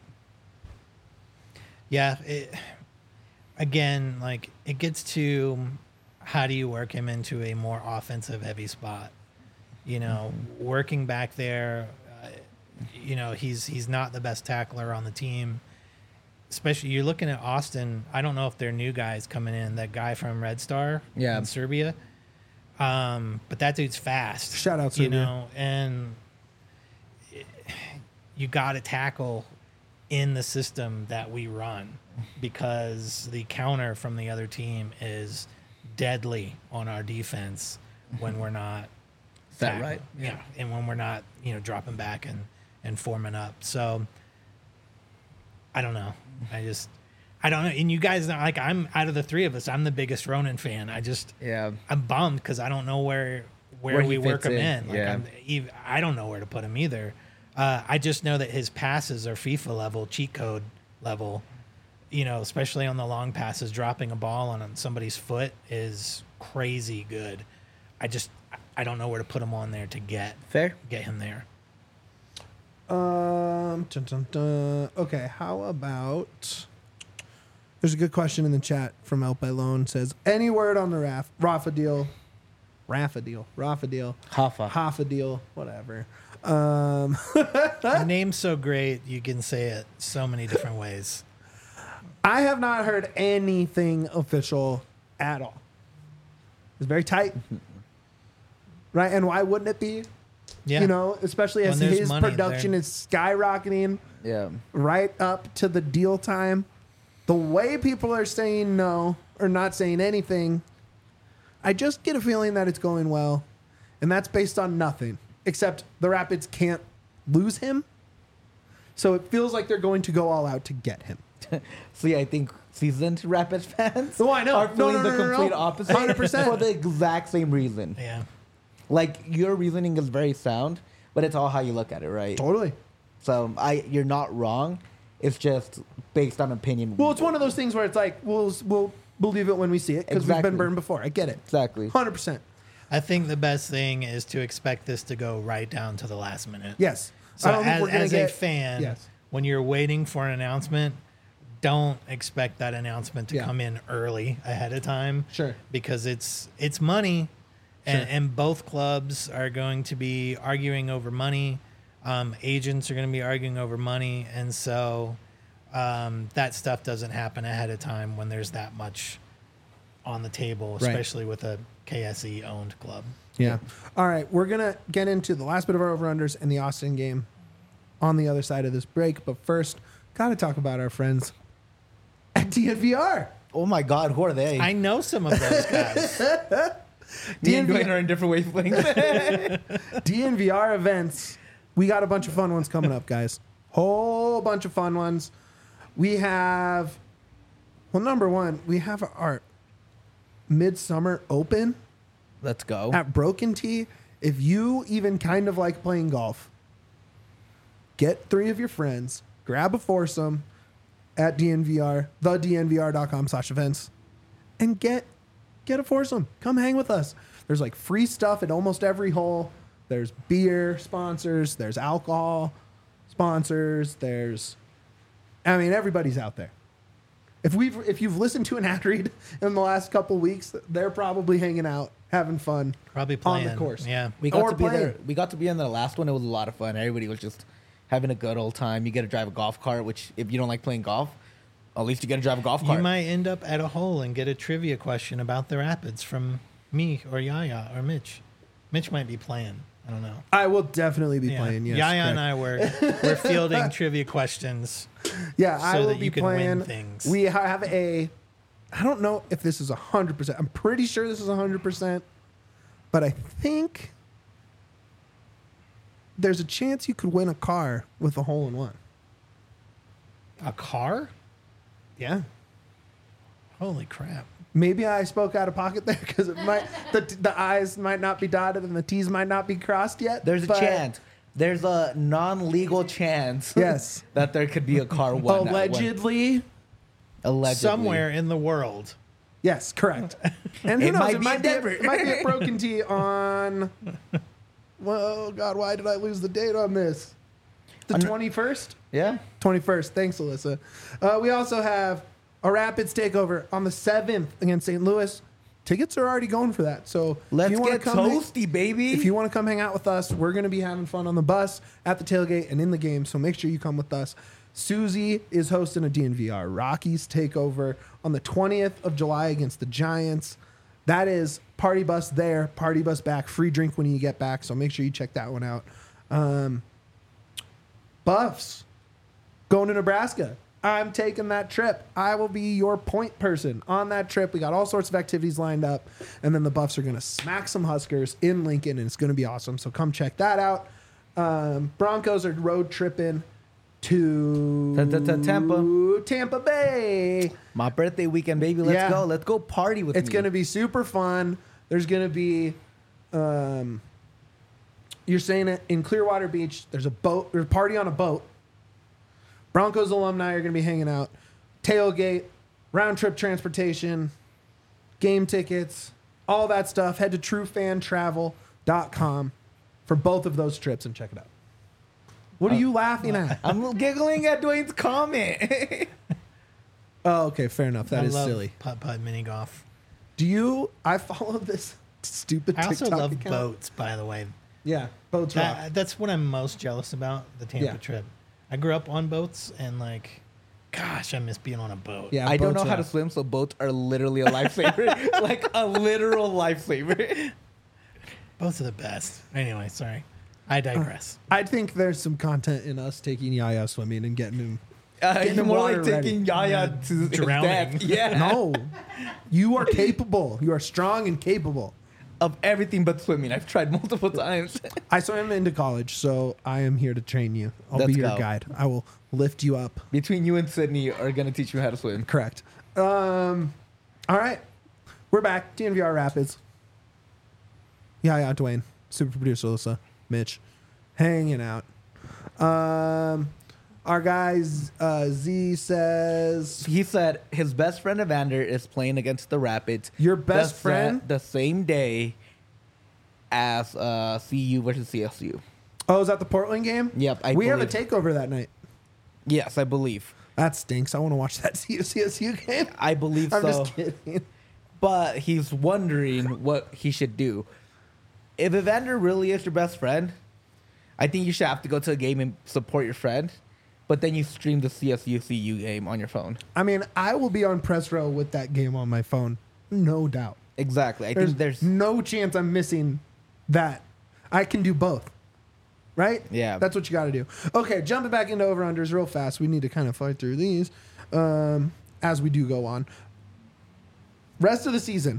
Yeah. It, again, like it gets to how do you work him into a more offensive heavy spot? You know, Mm-hmm. working back there, uh, you know, he's he's not the best tackler on the team. Especially you're looking at Austin. I don't know if they're new guys coming in. That guy from Red Star Yeah. in Serbia. Um, but that dude's fast. Shout out You Serbia. know, and it- you got to tackle in the system that we run because the counter from the other team is deadly on our defense when we're not Is that tackling. right? Yeah. And when we're not, you know, dropping back and, and forming up. So I don't know. I just, I don't know. And you guys, like, I'm out of the three of us, I'm the biggest Ronan fan. I just, Yeah. I'm bummed because I don't know where where, Where he we work fits him in, in. Like yeah. I'm, ev- I don't know where to put him either. Uh, I just know that his passes are FIFA level, cheat code level. You know, especially on the long passes, dropping a ball on somebody's foot is crazy good. I just, I don't know where to put him on there to get Fair. get him there. Um, dun, dun, dun. Okay, how about... There's a good question in the chat from El Pelon. Says, any word on the Raf, Rafa deal? Rafa deal. Rafa deal. Hafa. Hafa deal. Whatever. Um, The name's so great, you can say it so many different ways. I have not heard anything official at all. It's very tight. Right? And why wouldn't it be? Yeah. You know, especially When as there's his money production there. is skyrocketing Yeah. right up to the deal time. The way people are saying no or not saying anything, I just get a feeling that it's going well. And that's based on nothing, except the Rapids can't lose him. So it feels like they're going to go all out to get him. See, I think seasoned Rapids fans Oh, I know. are No, feeling no, no, the no, no, complete no. opposite one hundred percent. for the exact same reason. Yeah. Like, your reasoning is very sound, but it's all how you look at it, right? Totally. So I, you're not wrong. It's just based on opinion. Well, it's one of those things where it's like, we'll, we'll believe it when we see it because we've Exactly. been burned before. I get it. Exactly. one hundred percent. I think the best thing is to expect this to go right down to the last minute. Yes. So I don't think as, we're gonna as a get- fan, Yes. when you're waiting for an announcement, don't expect that announcement to Yeah. come in early ahead of time. Sure. Because it's it's money, and, Sure. and both clubs are going to be arguing over money. Um, agents are going to be arguing over money, and so um, that stuff doesn't happen ahead of time when there's that much on the table, Right. especially with a K S E owned club. Yeah. All right. We're going to get into the last bit of our over-unders and the Austin game on the other side of this break. But first, got to talk about our friends at D N V R. Oh my God, who are they? I know some of those guys. Me and Dwayne are in different wavelengths. D N V R events. We got a bunch of fun ones coming up, guys. Whole bunch of fun ones. We have, well, number one, we have our Midsummer Open Let's go. at Broken Tee. If you even kind of like playing golf, get three of your friends, grab a foursome at D N V R, the D N V R dot com slash events, and get get a foursome. Come hang with us. There's like free stuff at almost every hole. There's beer sponsors. There's alcohol sponsors. There's, I mean, everybody's out there. If we've if you've listened to an ad read in the last couple weeks, they're probably hanging out, having fun, Probably on playing. the course. Yeah. We got Or to be playing. there. We got to be in the last one. It was a lot of fun. Everybody was just having a good old time. You get to drive a golf cart, which if you don't like playing golf, At least you get to drive a golf You cart. might end up at a hole and get a trivia question about the Rapids from me or Yaya or Mitch. Mitch might be playing. I don't know. I will definitely be Yeah. playing. Yes, Yaya correct. and I were we're fielding trivia questions. Yeah, I so will that be you can win playing. things. We ha- have a. I don't know if this is a hundred percent. I'm pretty sure this is a hundred percent, but I think there's a chance you could win a car with a hole in one. A car? Yeah. Holy crap. Maybe I spoke out of pocket there because it might the the I's might not be dotted and the T's might not be crossed yet. There's a but chance. There's a non-legal chance. Yes. that there could be a car one. Allegedly. Allegedly. Somewhere in the world. Yes, correct. And who It knows? might it, be might in be a, Denver. it might be a broken T on. Well, God, why did I lose the date on this? The I'm- twenty-first? Yeah. twenty-first. Thanks, Alyssa. Uh, we also have a Rapids takeover on the seventh against Saint Louis. Tickets are already going for that. So Let's if you wanna get come hang- toasty, baby. if you want to come hang out with us, we're going to be having fun on the bus, at the tailgate, and in the game. So make sure you come with us. Susie is hosting a D N V R Rockies takeover on the twentieth of July against the Giants. That is party bus there, party bus back, free drink when you get back. So make sure you check that one out. Um, Buffs going to Nebraska. I'm taking that trip. I will be your point person on that trip. We got all sorts of activities lined up. And then the Buffs are going to smack some Huskers in Lincoln, and it's going to be awesome. So come check that out. Um, Broncos are road tripping to Ta-ta-ta- Tampa. Tampa Bay. My birthday weekend, baby. Let's Yeah. go. Let's go party with It's me. going to be super fun. There's going to be, um, you're saying it in Clearwater Beach. There's a boat, there's a party on a boat. Broncos alumni are going to be hanging out. Tailgate, round trip transportation, game tickets, all that stuff. Head to true fan travel dot com for both of those trips and check it out. What are you laughing at? I'm giggling at Dwayne's comment. Oh, okay, fair enough. That I is love silly. putt putt mini golf. Do you? I follow this stupid I also TikTok love account. boats, by the way. Yeah, boats rock. That, that's what I'm most jealous about, the Tampa Yeah. trip. I grew up on boats and like, gosh, I miss being on a boat. Yeah, I don't boats know how to rock. swim, so boats are literally a lifesaver. Like a literal lifesaver. Boats are the best. Anyway, sorry. I digress. I think there's some content in us taking Yaya swimming and getting him. Uh, Getting you're the more water like ready. taking Yaya to his Drowning. death. Yeah. No, you are capable. You are strong and capable. Of everything but swimming. I've tried multiple times. I swam into college, so I am here to train you. I'll Let's be your go. guide. I will lift you up. Between you and Sydney are going to teach you how to swim. Correct. Um, all right. We're back. D N V R Rapids. Yaya, Dwayne. Super producer Alyssa. Mitch. Hanging out. Um, our guys, uh, Z says, He said his best friend Evander is playing against the Rapids. Your best the, sa- friend? The same day as uh, C U versus C S U. oh, is that the Portland game? Yep, I we have a believe- takeover that night. Yes, I believe. That stinks. I want to watch that C S U game. I believe I'm so. just kidding. But he's wondering what he should do. If Evander really is your best friend, I think you should have to go to a game and support your friend. But then you stream the C S U C U game on your phone. I mean, I will be on press row with that game on my phone. No doubt. Exactly. I There's, think there's no chance I'm missing that. I can do both. Right? Yeah. That's what you got to do. Okay, jumping back into over-unders real fast. We need to kind of fight through these um, as we do go on. Rest of the season.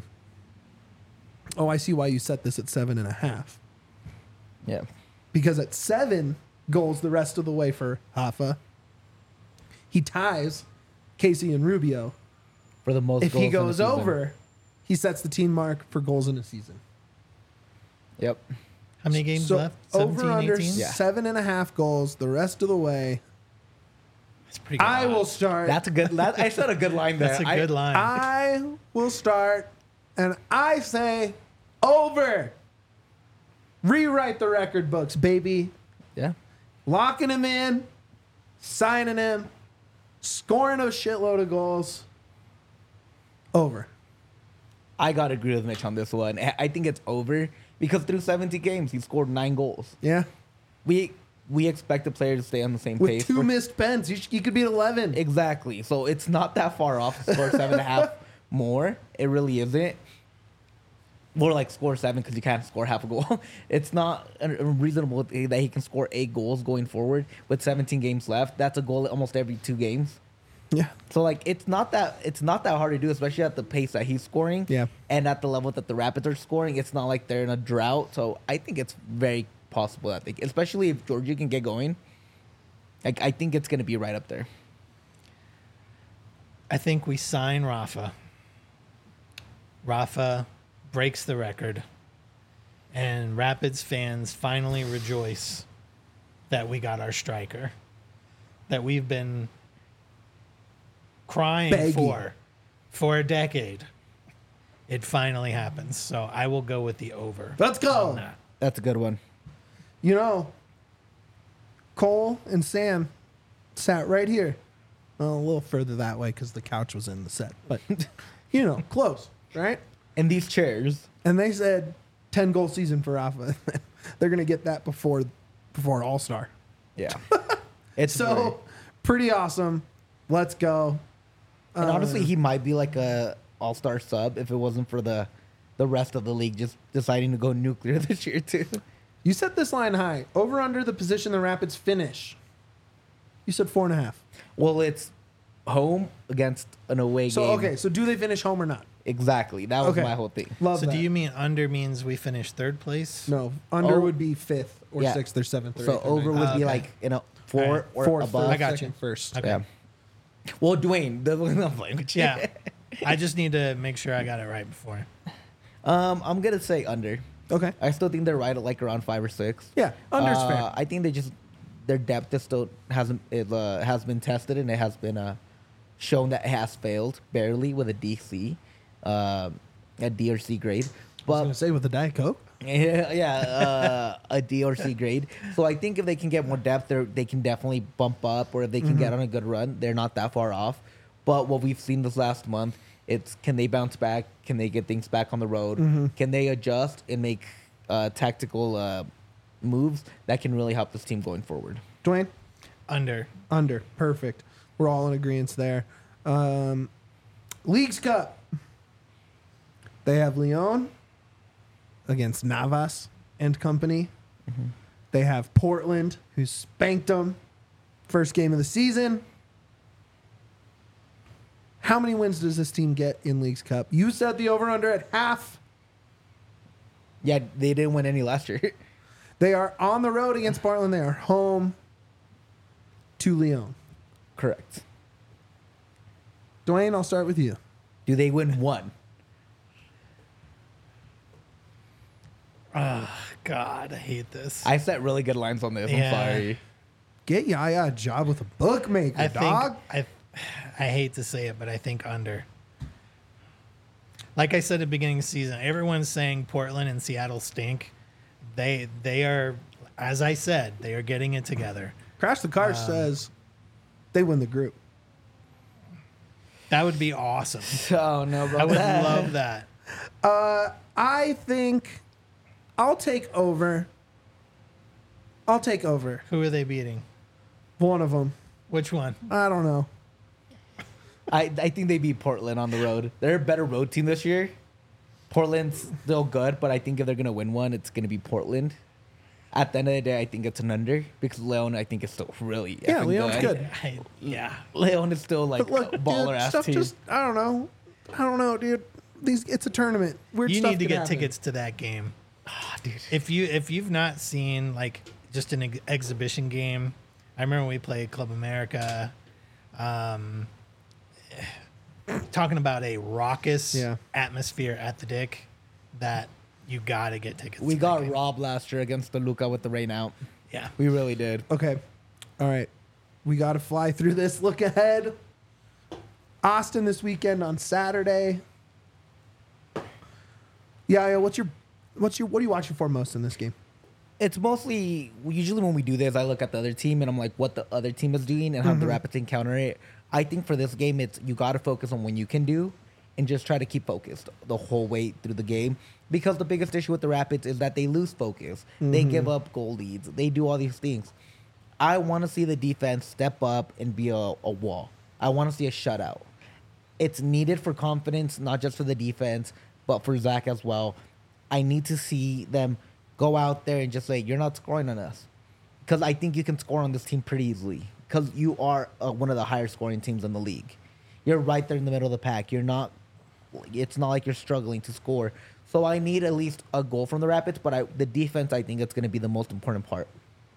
Oh, I see why you set this at seven and a half. yeah. Because at seven goals the rest of the way for Hoffa, he ties Casey and Rubio. For the most If goals he in the goes season. over, he sets the team mark for goals in a season. Yep. How many games so left? over seventeen, under eighteen? Yeah. seven and a half goals the rest of the way. That's pretty good. I will odds. start. That's a good that, I said a good line there. That's a I- good line. I will start, and I say over. Rewrite the record books, baby. Yeah. Locking him in, signing him, scoring a shitload of goals. Over. I got to agree with Mitch on this one. I I think it's over because through seventy games, he scored nine goals. Yeah. We we expect the players to stay on the same With pace. two for- missed pens, you, sh- you could be at eleven. Exactly. So it's not that far off to score seven and a half more. It really isn't. More like score seven because you can't score half a goal. It's not reasonable that he can score eight goals going forward with seventeen games left. That's a goal almost every two games. Yeah. So like it's not that it's not that hard to do, especially at the pace that he's scoring. Yeah. And at the level that the Rapids are scoring, it's not like they're in a drought. So I think it's very possible that they, especially if Georgia can get going. Like I think it's gonna be right up there. I think we sign Rafa. Rafa breaks the record, and Rapids fans finally rejoice that we got our striker that we've been crying Begging. for for a decade. It finally happens. So I will go with the over. Let's go. on that. That's a good one. You know, Cole and Sam sat right here. Well, a little further that way because the couch was in the set. But, you know, close, right? And these chairs. And they said ten goal season for Rafa. They're going to get that before before All-Star. Yeah. It's So, very- pretty awesome. Let's go. and Uh, honestly, he might be like a all-star sub if it wasn't for the the rest of the league just deciding to go nuclear this year too. You set this line high. Over under the position the Rapids finish. You said four and a half. Well, it's home against an away So, game. okay. So, do they finish home or not? Exactly. That was Okay. my whole thing. Love So that. do you mean under means we finish third place? No. Under Oh. would be fifth or Yeah. sixth or seventh or So eighth or over ninth. would Oh, be okay. like, you know, four All right. or Fourth, above. third, I got you. second, first. Okay. Yeah. Well, Dwayne, the I'm playing with you. Yeah. I just need to make sure I got it right before. Um, I'm gonna say under. Okay. I still think they're right at like around five or six. Yeah. Under's Uh, fair. I think they just their depth is still hasn't it uh, has been tested and it has been uh, shown that it has failed barely with a D C, um, a D or C grade. I was But going to say with the Diet Coke. yeah, yeah uh, a D or C grade. So I think if they can get more depth, they they can definitely bump up, or if they can Mm-hmm. get on a good run, they're not that far off. But what we've seen this last month, it's can they bounce back? Can they get things back on the road? Mm-hmm. Can they adjust and make uh, tactical uh, moves that can really help this team going forward? Dwayne? Under. Under. Perfect. We're all in agreement there. Um, Leagues Cup. They have Leon against Navas and company. Mm-hmm. They have Portland, who spanked them first game of the season. How many wins does this team get in Leagues Cup? You said the over-under at half. Yeah, they didn't win any last year. They are on the road against Portland. They are home to Leon. Correct. Dwayne, I'll start with you. Do they win one? God, I hate this. I set really good lines on this. Yeah. I'm sorry. Get Yaya a job with a bookmaker, I dog. think I, I hate to say it, but I think under. Like I said at the beginning of the season, everyone's saying Portland and Seattle stink. They they are, as I said, they are getting it together. Crash the Car Um, says they win the group. That would be awesome. Oh no, bro. I would love that. Uh, I think I'll take over. I'll take over Who are they beating? one of them. Which one? I don't know. I, I think they beat Portland on the road. They're a better road team this year. Portland's still good, but I think if they're gonna win one, it's gonna be Portland. At the end of the day, I think it's an under because Leon, I think, is still really Yeah, effing Leon's good. I, yeah. Leon is still like But look, a baller dude, ass stuff team. just I don't know. I don't know, dude. These it's a tournament. Weird You stuff need to can get happen. tickets to that game. Ah, dude. If you if you've not seen like just an ex- exhibition game, I remember we played Club America. Um, talking about a raucous Yeah. atmosphere at the Dick that you got to get tickets. We to that got game. robbed last year against the Luca with the rain out. Yeah. We really did. Okay. All right. We got to fly through this. Look ahead. Austin this weekend on Saturday. Yeah, yeah. What's your, what's your, what are you watching for most in this game? It's mostly usually when we do this, I look at the other team and I'm like, what the other team is doing and how Mm-hmm. the Rapids can counter it. I think for this game, it's you got to focus on what you can do and just try to keep focused the whole way through the game. Because the biggest issue with the Rapids is that they lose focus. They Mm-hmm. give up goal leads. They do all these things. I want to see the defense step up and be a, a wall. I want to see a shutout. It's needed for confidence, not just for the defense, but for Zach as well. I need to see them go out there and just say, you're not scoring on us. Because I think you can score on this team pretty easily. Because you are uh, one of the higher scoring teams in the league. You're right there in the middle of the pack. You're not, it's not like you're struggling to score. So I need at least a goal from the Rapids, but I, the defense, I think it's going to be the most important part.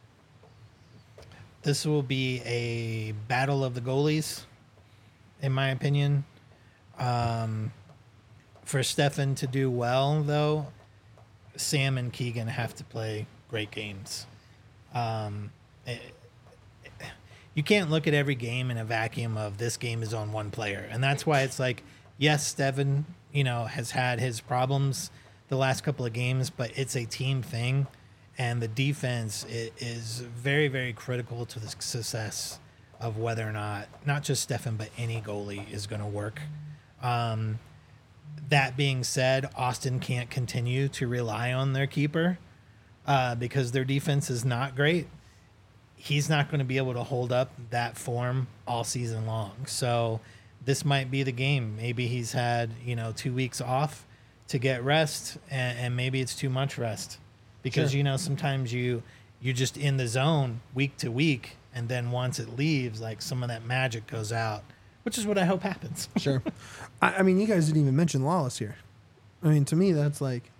This will be a battle of the goalies, in my opinion. Um, for Stefan to do well, though, Sam and Keegan have to play great games. Um, it, it, you can't look at every game in a vacuum of this game is on one player. And that's why it's like, yes, Stefan, you know, has had his problems the last couple of games, but it's a team thing. And the defense is very, very critical to the success of whether or not, not just Stefan, but any goalie is going to work. Um, that being said, Austin can't continue to rely on their keeper uh, because their defense is not great. He's not going to be able to hold up that form all season long. So this might be the game. Maybe he's had, you know, two weeks off to get rest, and, and maybe it's too much rest. Because, Sure. you know, sometimes you, you're just in the zone week to week, and then once it leaves, like, some of that magic goes out, which is what I hope happens. Sure. I, I mean, you guys didn't even mention Lawless here. I mean, to me, that's like...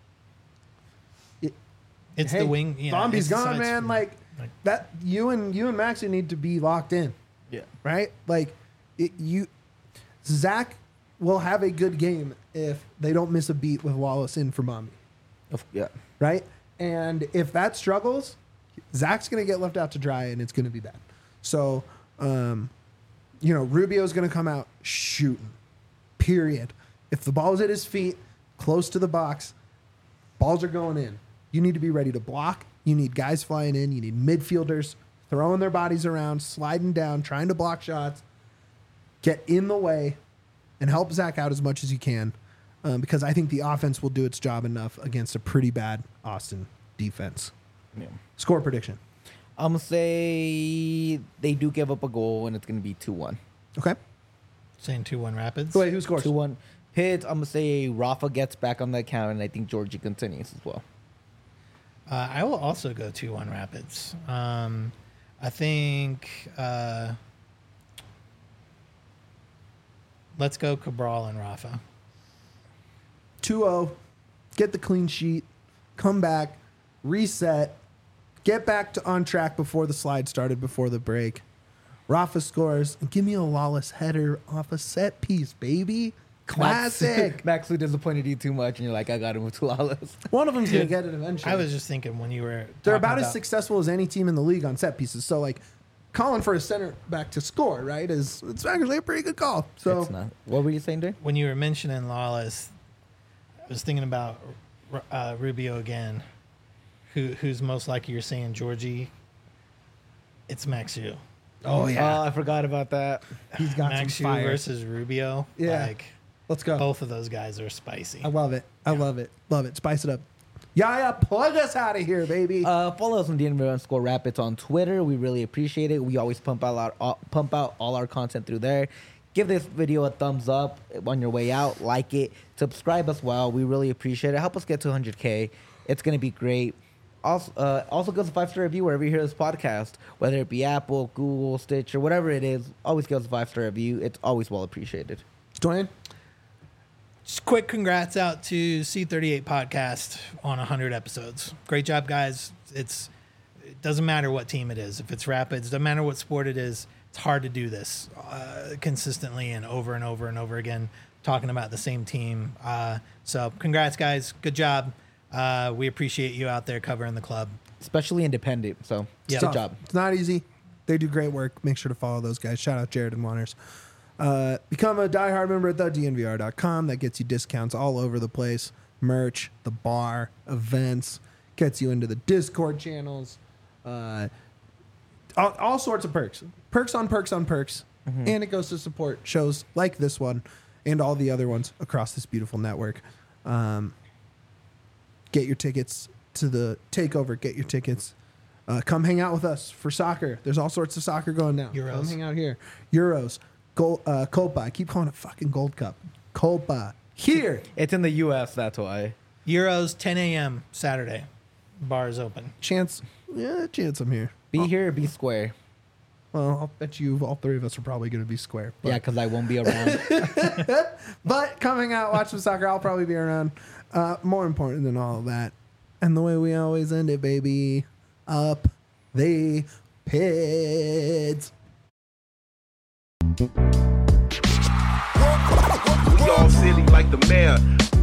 It, It's hey, the wing. You know, Bombi's it's the gone, side man. screen. Like, Like- that. You and you and Maxie need to be locked in, Yeah. right? Like, it, you... Zach will have a good game if they don't miss a beat with Wallace in for Bombi, Yeah. right? And if that struggles, Zach's going to get left out to dry, and it's going to be bad. So, um, you know, Rubio's going to come out shooting, period. If the ball's at his feet, close to the box, balls are going in. You need to be ready to block. You need guys flying in. You need midfielders throwing their bodies around, sliding down, trying to block shots. Get in the way and help Zach out as much as you can. Um, because I think the offense will do its job enough against a pretty bad Austin defense. Yeah. Score prediction. I'm going to say they do give up a goal, and it's going to be two one. Okay. Saying two one Rapids. Wait, who scores? two one. Pitt, I'm going to say Rafa gets back on the account, and I think Georgie continues as well. Uh, I will also go two one Rapids. Um, I think... Uh, let's go Cabral and Rafa. two oh, get the clean sheet, come back, reset, get back to on track before the slide started, before the break. Rafa scores, and give me a Lawless header off a set piece, baby. Classic. Max, who disappointed you too much, and you're like, I got him with Lawless. One of them's going to Dude, get it eventually. I was just thinking when you were... They're talking about as about- successful as any team in the league on set pieces. So, like, calling for a center back to score, right, is it's actually a pretty good call. So, It's not. What were you saying, Dave? When you were mentioning Lawless, I was thinking about uh, Rubio again. Who Who's most likely you're saying Georgie? It's Max Yu. oh, yeah. Oh, I forgot about that. He's got Max some Yu fire. versus Rubio. Yeah. Like, Let's go. both of those guys are spicy. I love it. I love it. Love it. Spice it up. Yaya, plug us out of here, baby. Uh, follow us on D N V underscore Rapids on Twitter. We really appreciate it. We always pump out our uh, pump out all our content through there. Give this video a thumbs up on your way out. Like it. Subscribe as well. We really appreciate it. Help us get to one hundred K. It's gonna be great. Also, uh, also give us a five star review wherever you hear this podcast, whether it be Apple, Google, Stitch, or whatever it is. Always give us a five star review. It's always well appreciated. Dwayne? Just quick congrats out to C thirty-eight Podcast on one hundred episodes. Great job, guys. It's It doesn't matter what team it is. If it's Rapids, doesn't matter what sport it is. It's hard to do this uh, consistently and over and over and over again, talking about the same team. Uh, so congrats, guys. Good job. Uh, we appreciate you out there covering the club. Especially independent. So Yeah. good Tough. job. It's not easy. They do great work. Make sure to follow those guys. Shout out Jared and Wanners. Uh, become a diehard member at the D N V R dot com. That gets you discounts all over the place. Merch, the bar, events. Gets you into the Discord channels. Uh, all, all sorts of perks. Perks on perks on perks. And it goes to support shows like this one and all the other ones across this beautiful network. Um, get your tickets to the takeover. Get your tickets Uh, come hang out with us for soccer. There's all sorts of soccer going down. Euros. Come hang out here. Euros. Gold, uh, Copa. I keep calling it fucking Gold Cup. Copa. Here. It's in the U S, that's why. Euros, ten a.m. Saturday. Bar is open. Chance. Yeah, chance I'm here. Be here, be square. Well, I'll bet you all three of us are probably going to be square. But, Yeah, because I won't be around. but coming out, watch some soccer. I'll probably be around. Uh, more important than all of that. And the way we always end it, baby. Up the pids. We all silly like the mayor.